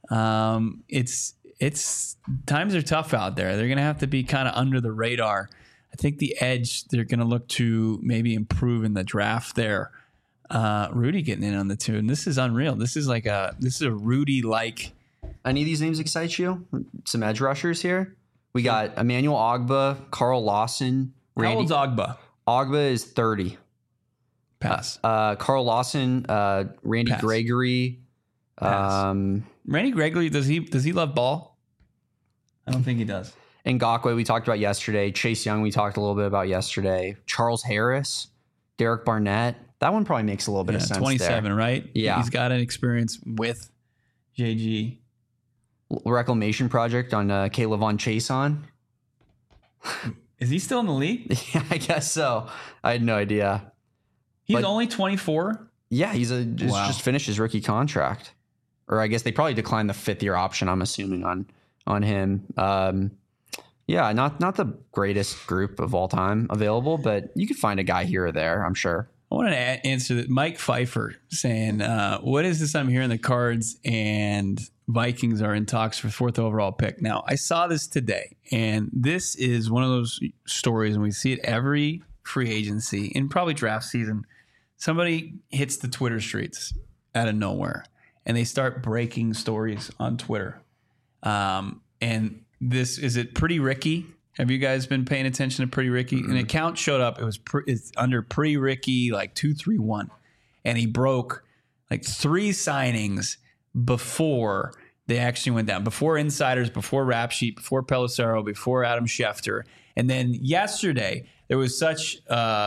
It's times are tough out there. They're going to have to be kind of under the radar. I think the edge, they're going to look to maybe improve in the draft there. Rudy getting in on the Tune. This is unreal. This is a Rudy-like. Any of these names excite you? Some edge rushers here. We got Emmanuel Ogbah, Carl Lawson. How old's Ogbah? Ogbah is 30. Pass. Carl Lawson, Randy Pass. Gregory. Randy Gregory, does he love ball? I don't think he does. Ngakoue we talked about yesterday. Chase Young we talked a little bit about yesterday. Charles Harris, Derek Barnett. That one probably makes a little bit of sense. 27, there. right? Yeah. He's got an experience with JG. Reclamation project on Caleb Von Chason. Is he still in the league? Yeah, I guess so. I had no idea. He's only 24? Yeah, he's just finished his rookie contract. Or I guess they probably declined the 5th-year option, I'm assuming, on him. Yeah, not the greatest group of all time available, but you could find a guy here or there, I'm sure. I want to answer that. Mike Pfeiffer saying, what is this I'm hearing? The Cards and Vikings are in talks for 4th overall pick. Now, I saw this today, and this is one of those stories, and we see it every free agency and probably draft season. Somebody hits the Twitter streets out of nowhere, and they start breaking stories on Twitter. And this, is it Pretty Ricky? Have you guys been paying attention to Pretty Ricky? An account showed up. It's under Pretty Ricky, like 231. And he broke like 3 signings before they actually went down. Before Insiders, before Rap Sheet, before Pelissero, before Adam Schefter. And then yesterday, there was such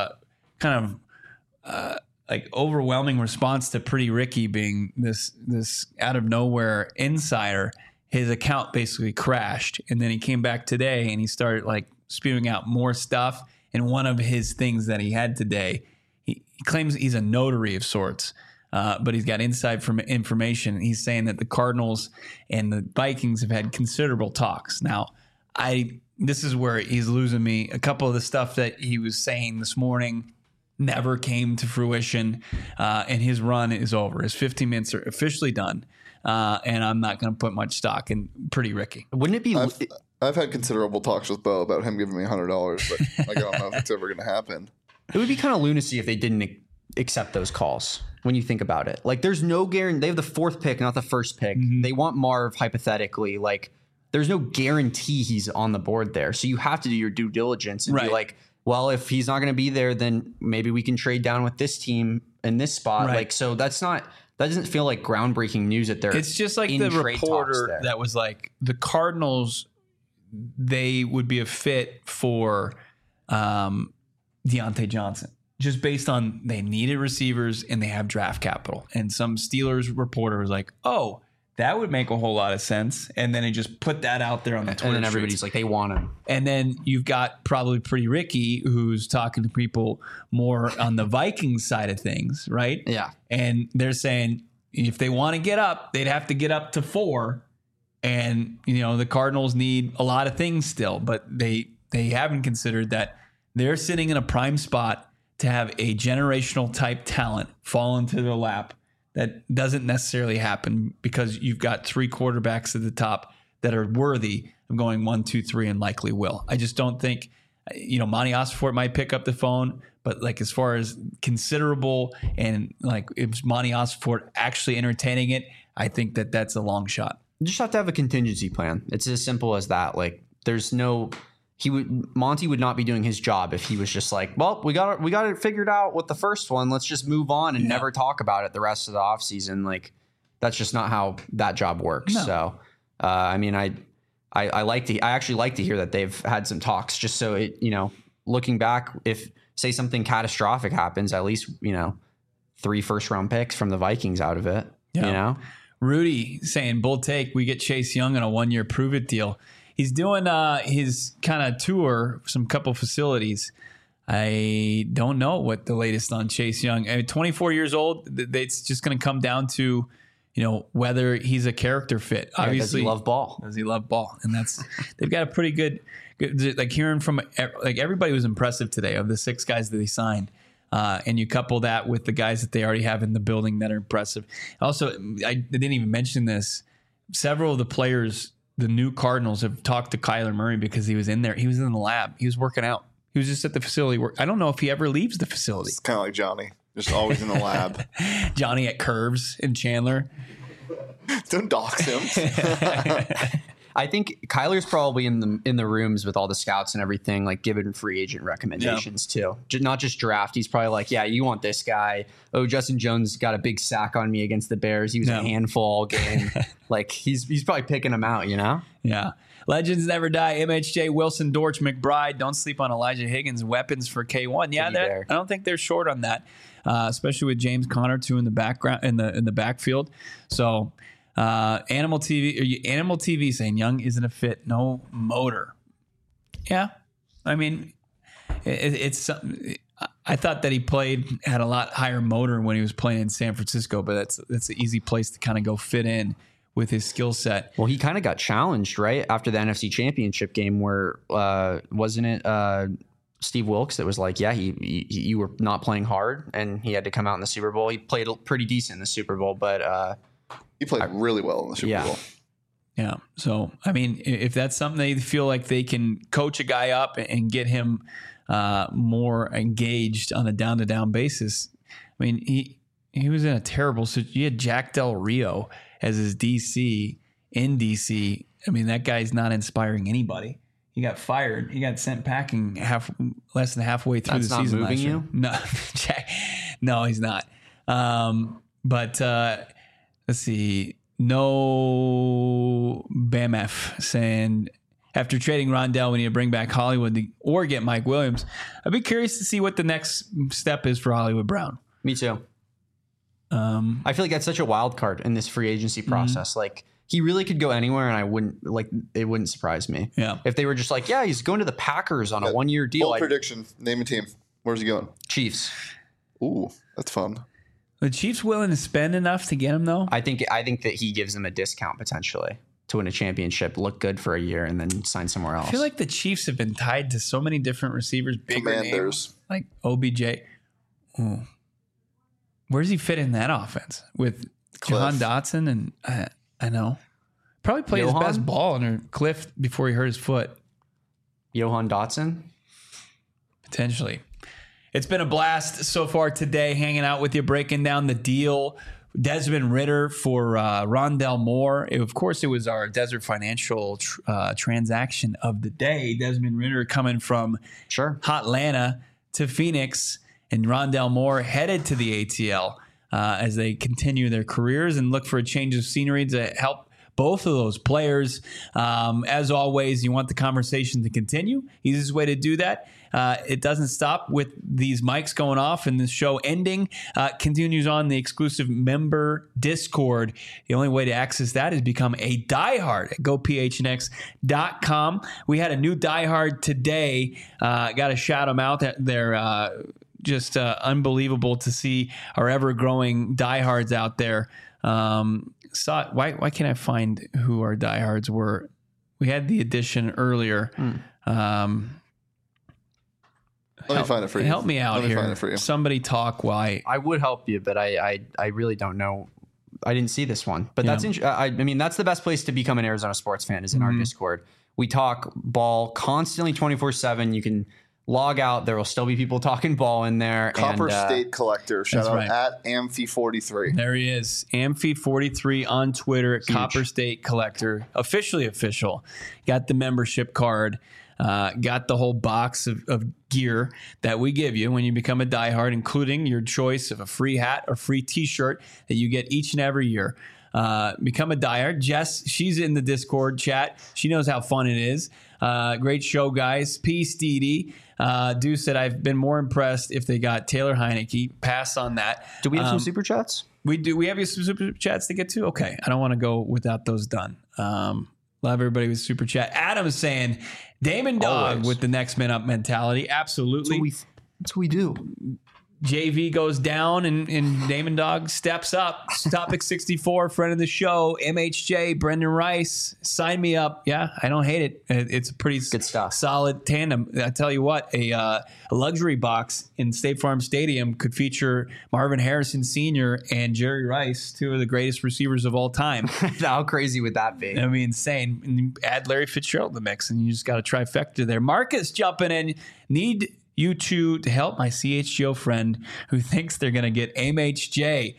like overwhelming response to Pretty Ricky being this out of nowhere insider. His account basically crashed, and then he came back today and he started like spewing out more stuff. And one of his things that he had today, he claims he's a notary of sorts, but he's got inside from information. He's saying that the Cardinals and the Vikings have had considerable talks. Now, this is where he's losing me. A couple of the stuff that he was saying this morning never came to fruition, and his run is over. His 15 minutes are officially done. And I'm not going to put much stock in Pretty Ricky. Wouldn't it be? I've had considerable talks with Bo about him giving me $100, but I don't know if it's ever going to happen. It would be kind of lunacy if they didn't accept those calls. When you think about it, like there's no guarantee. They have the 4th pick, not the 1st pick. Mm-hmm. They want Marv hypothetically. Like there's no guarantee he's on the board there. So you have to do your due diligence and be like, well, if he's not going to be there, then maybe we can trade down with this team in this spot. Right. Like, so that doesn't feel like groundbreaking news that they're. It's just like the reporter that was like the Cardinals, they would be a fit for Deontay Johnson just based on they needed receivers and they have draft capital. And some Steelers reporter was like, oh, that would make a whole lot of sense. And then he just put that out there on the Twitter. And then everybody's like, they want him. And then you've got probably Pretty Ricky who's talking to people more on the Vikings side of things, right? Yeah. And they're saying if they want to get up, they'd have to get up to 4. And, the Cardinals need a lot of things still, but they haven't considered that they're sitting in a prime spot to have a generational type talent fall into their lap. That doesn't necessarily happen because you've got 3 quarterbacks at the top that are worthy of going 1, 2, 3 and likely will. I just don't think Monty Ossenfort might pick up the phone, but like as far as considerable and like if Monty Ossenfort actually entertaining it, I think that's a long shot. You just have to have a contingency plan. It's as simple as that. Like Monty would not be doing his job if he was just like, well, we got it figured out with the first one. Let's just move on and never talk about it the rest of the offseason. Like that's just not how that job works. No. So, I actually like to hear that they've had some talks just so it, looking back, if say something catastrophic happens, at least, 3 first-round picks from the Vikings out of it, Rudy saying, bold take, we get Chase Young on a 1-year prove-it deal. He's doing his kind of tour, some couple facilities. I don't know what the latest on Chase Young. 24 years old, it's just going to come down to, whether he's a character fit. Obviously, does he love ball? Does he love ball? And they've got a pretty good, like hearing from, like everybody was impressive today of the 6 guys that they signed. And you couple that with the guys that they already have in the building that are impressive. Also, I didn't even mention this. Several of the players, the new Cardinals, have talked to Kyler Murray because he was in there. He was in the lab. He was working out. He was just at the facility. I don't know if he ever leaves the facility. It's kind of like Johnny, just always in the lab. Johnny at Curves in Chandler. Don't dox him. I think Kyler's probably in the rooms with all the scouts and everything, like giving free agent recommendations too. Not just draft. He's probably like, yeah, you want this guy. Oh, Justin Jones got a big sack on me against the Bears. He was a handful all game. Like he's probably picking them out, Yeah. Legends never die. MHJ, Wilson, Dortch, McBride. Don't sleep on Elijah Higgins. Weapons for K1. Yeah, I don't think they're short on that, especially with James Conner too in the background in the backfield. So. Animal TV saying Young isn't a fit, no motor. Yeah, I mean, it's. I thought that he had a lot higher motor when he was playing in San Francisco, but that's an easy place to kind of go fit in with his skill set. Well, he kind of got challenged right after the NFC Championship game, where wasn't it Steve Wilkes that was like, yeah, you were not playing hard, and he had to come out in the Super Bowl. He played pretty decent in the Super Bowl, but. He played really well in the Super Bowl. Yeah. So, I mean, if that's something they feel like they can coach a guy up and get him more engaged on a down-to-down basis. I mean, he was in a terrible situation. You had Jack Del Rio as his DC in DC. I mean, that guy's not inspiring anybody. He got fired. He got sent packing less than halfway through the season last year. No, Jack. No, he's not. But let's see. No BAMF saying after trading Rondell, we need to bring back Hollywood or get Mike Williams. I'd be curious to see what the next step is for Hollywood Brown. Me too. I feel like that's such a wild card in this free agency process. Mm-hmm. Like he really could go anywhere, and it wouldn't surprise me. Yeah. If they were just like, yeah, he's going to the Packers on a 1-year deal. Bold prediction. Name a team. Where's he going? Chiefs. Ooh, that's fun. The Chiefs willing to spend enough to get him, though? I think that he gives them a discount potentially to win a championship, look good for a year, and then sign somewhere else. I feel like the Chiefs have been tied to so many different receivers, bigger names, like OBJ. Ooh. Where does he fit in that offense with Jahan Dotson? And I know. Probably played his best ball under Cliff before he hurt his foot. Jahan Dotson? Potentially. It's been a blast so far today, hanging out with you, breaking down the deal. Desmond Ridder for Rondell Moore. Of course, it was our Desert Financial transaction of the day. Desmond Ridder coming from Hotlanta to Phoenix, and Rondell Moore headed to the ATL as they continue their careers and look for a change of scenery to help both of those players. As always, you want the conversation to continue. Easiest way to do that. It doesn't stop with these mics going off and the show ending. Continues on the exclusive member Discord. The only way to access that is become a diehard at gophnx.com. We had a new diehard today. Got to shout them out. They're just unbelievable to see our ever-growing diehards out there. Why can't I find who our diehards were? We had the edition earlier. Let me find it for you. Help me out here. Find it for you. Somebody talk why. I would help you, but I really don't know. I didn't see this one. But that's I mean, that's the best place to become an Arizona sports fan is in our Discord. We talk ball constantly 24/7. You can log out. There will still be people talking ball in there. Copper State Collector. Shout out right. at Amphi43. There he is. Amphi43 on Twitter at Copper State Collector. Officially official. Got the membership card. Got the whole box of gear that we give you when you become a diehard, including your choice of a free hat or free t-shirt that you get each and every year. Become a diehard. Jess, she's in the Discord chat. She knows how fun it is. Great show, guys. Peace, Dee. Deuce said, I've been more impressed if they got Taylor Heineke. Pass on that. Do we have some super chats? We do. We have some super chats to get to? Okay. I don't want to go without those done. Love everybody with super chat. Adam is saying, Damon Dog Always. with the next man up mentality. Absolutely. That's what we do. JV goes down and Damon Dog steps up. Topic 64, friend of the show, MHJ, Brendan Rice. Sign me up. Yeah, I don't hate it. It's a pretty Good stuff. solid tandem. I tell you what, a luxury box in State Farm Stadium could feature Marvin Harrison Sr. and Jerry Rice, two of the greatest receivers of all time. How crazy would that be? I mean, insane. And you add Larry Fitzgerald to the mix, and you just got a trifecta there. Marcus jumping in. Need you two to help my CHGO friend who thinks they're going to get MHJ.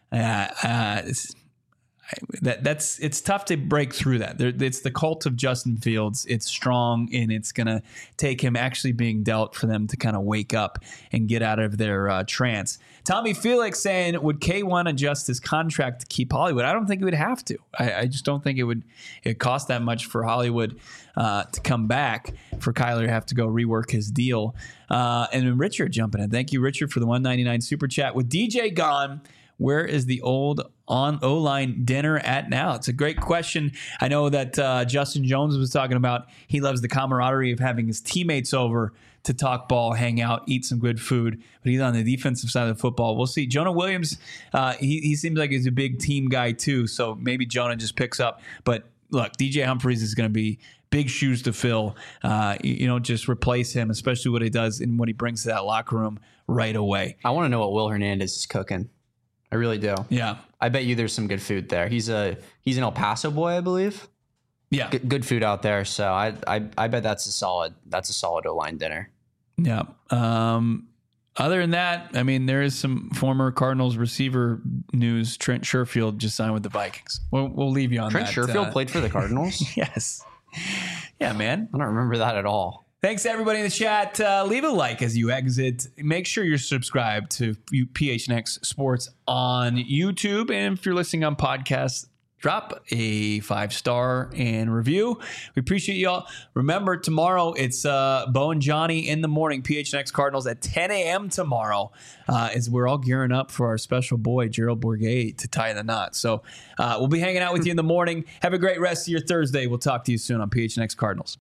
It's tough to break through that. It's the cult of Justin Fields. It's strong, and it's going to take him actually being dealt for them to kind of wake up and get out of their trance. Tommy Felix saying, would K1 adjust his contract to keep Hollywood? I don't think he would have to. I just don't think it cost that much for Hollywood to come back, for Kyler to have to go rework his deal. And then Richard jumping in. Thank you, Richard, for the $1.99 super chat. With DJ gone, where is the old on O-line dinner at now? It's a great question. I know that Justin Jones was talking about he loves the camaraderie of having his teammates over to talk ball, hang out, eat some good food, but he's on the defensive side of the football. We'll see. Jonah Williams, he seems like he's a big team guy too, so maybe Jonah just picks up. But look, DJ Humphries is going to be big shoes to fill. You don't just replace him, especially what he does and what he brings to that locker room right away. I want to know what Will Hernandez is cooking. I really do. Yeah. I bet you there's some good food there. He's an El Paso boy, I believe. Yeah. Good food out there. So I bet that's a solid O-line dinner. Yeah. Other than that, I mean, there is some former Cardinals receiver news. Trent Sherfield just signed with the Vikings. We'll leave you on Trent that. Sherfield played for the Cardinals? Yes. Yeah, man. I don't remember that at all. Thanks to everybody in the chat. Leave a like as you exit. Make sure you're subscribed to PHNX Sports on YouTube. And if you're listening on podcasts, drop a 5-star and review. We appreciate you all. Remember, tomorrow it's Bo and Johnny in the morning, PHNX Cardinals at 10 a.m. tomorrow, as we're all gearing up for our special boy, Gerald Bourguet, to tie the knot. So we'll be hanging out with you in the morning. Have a great rest of your Thursday. We'll talk to you soon on PHNX Cardinals.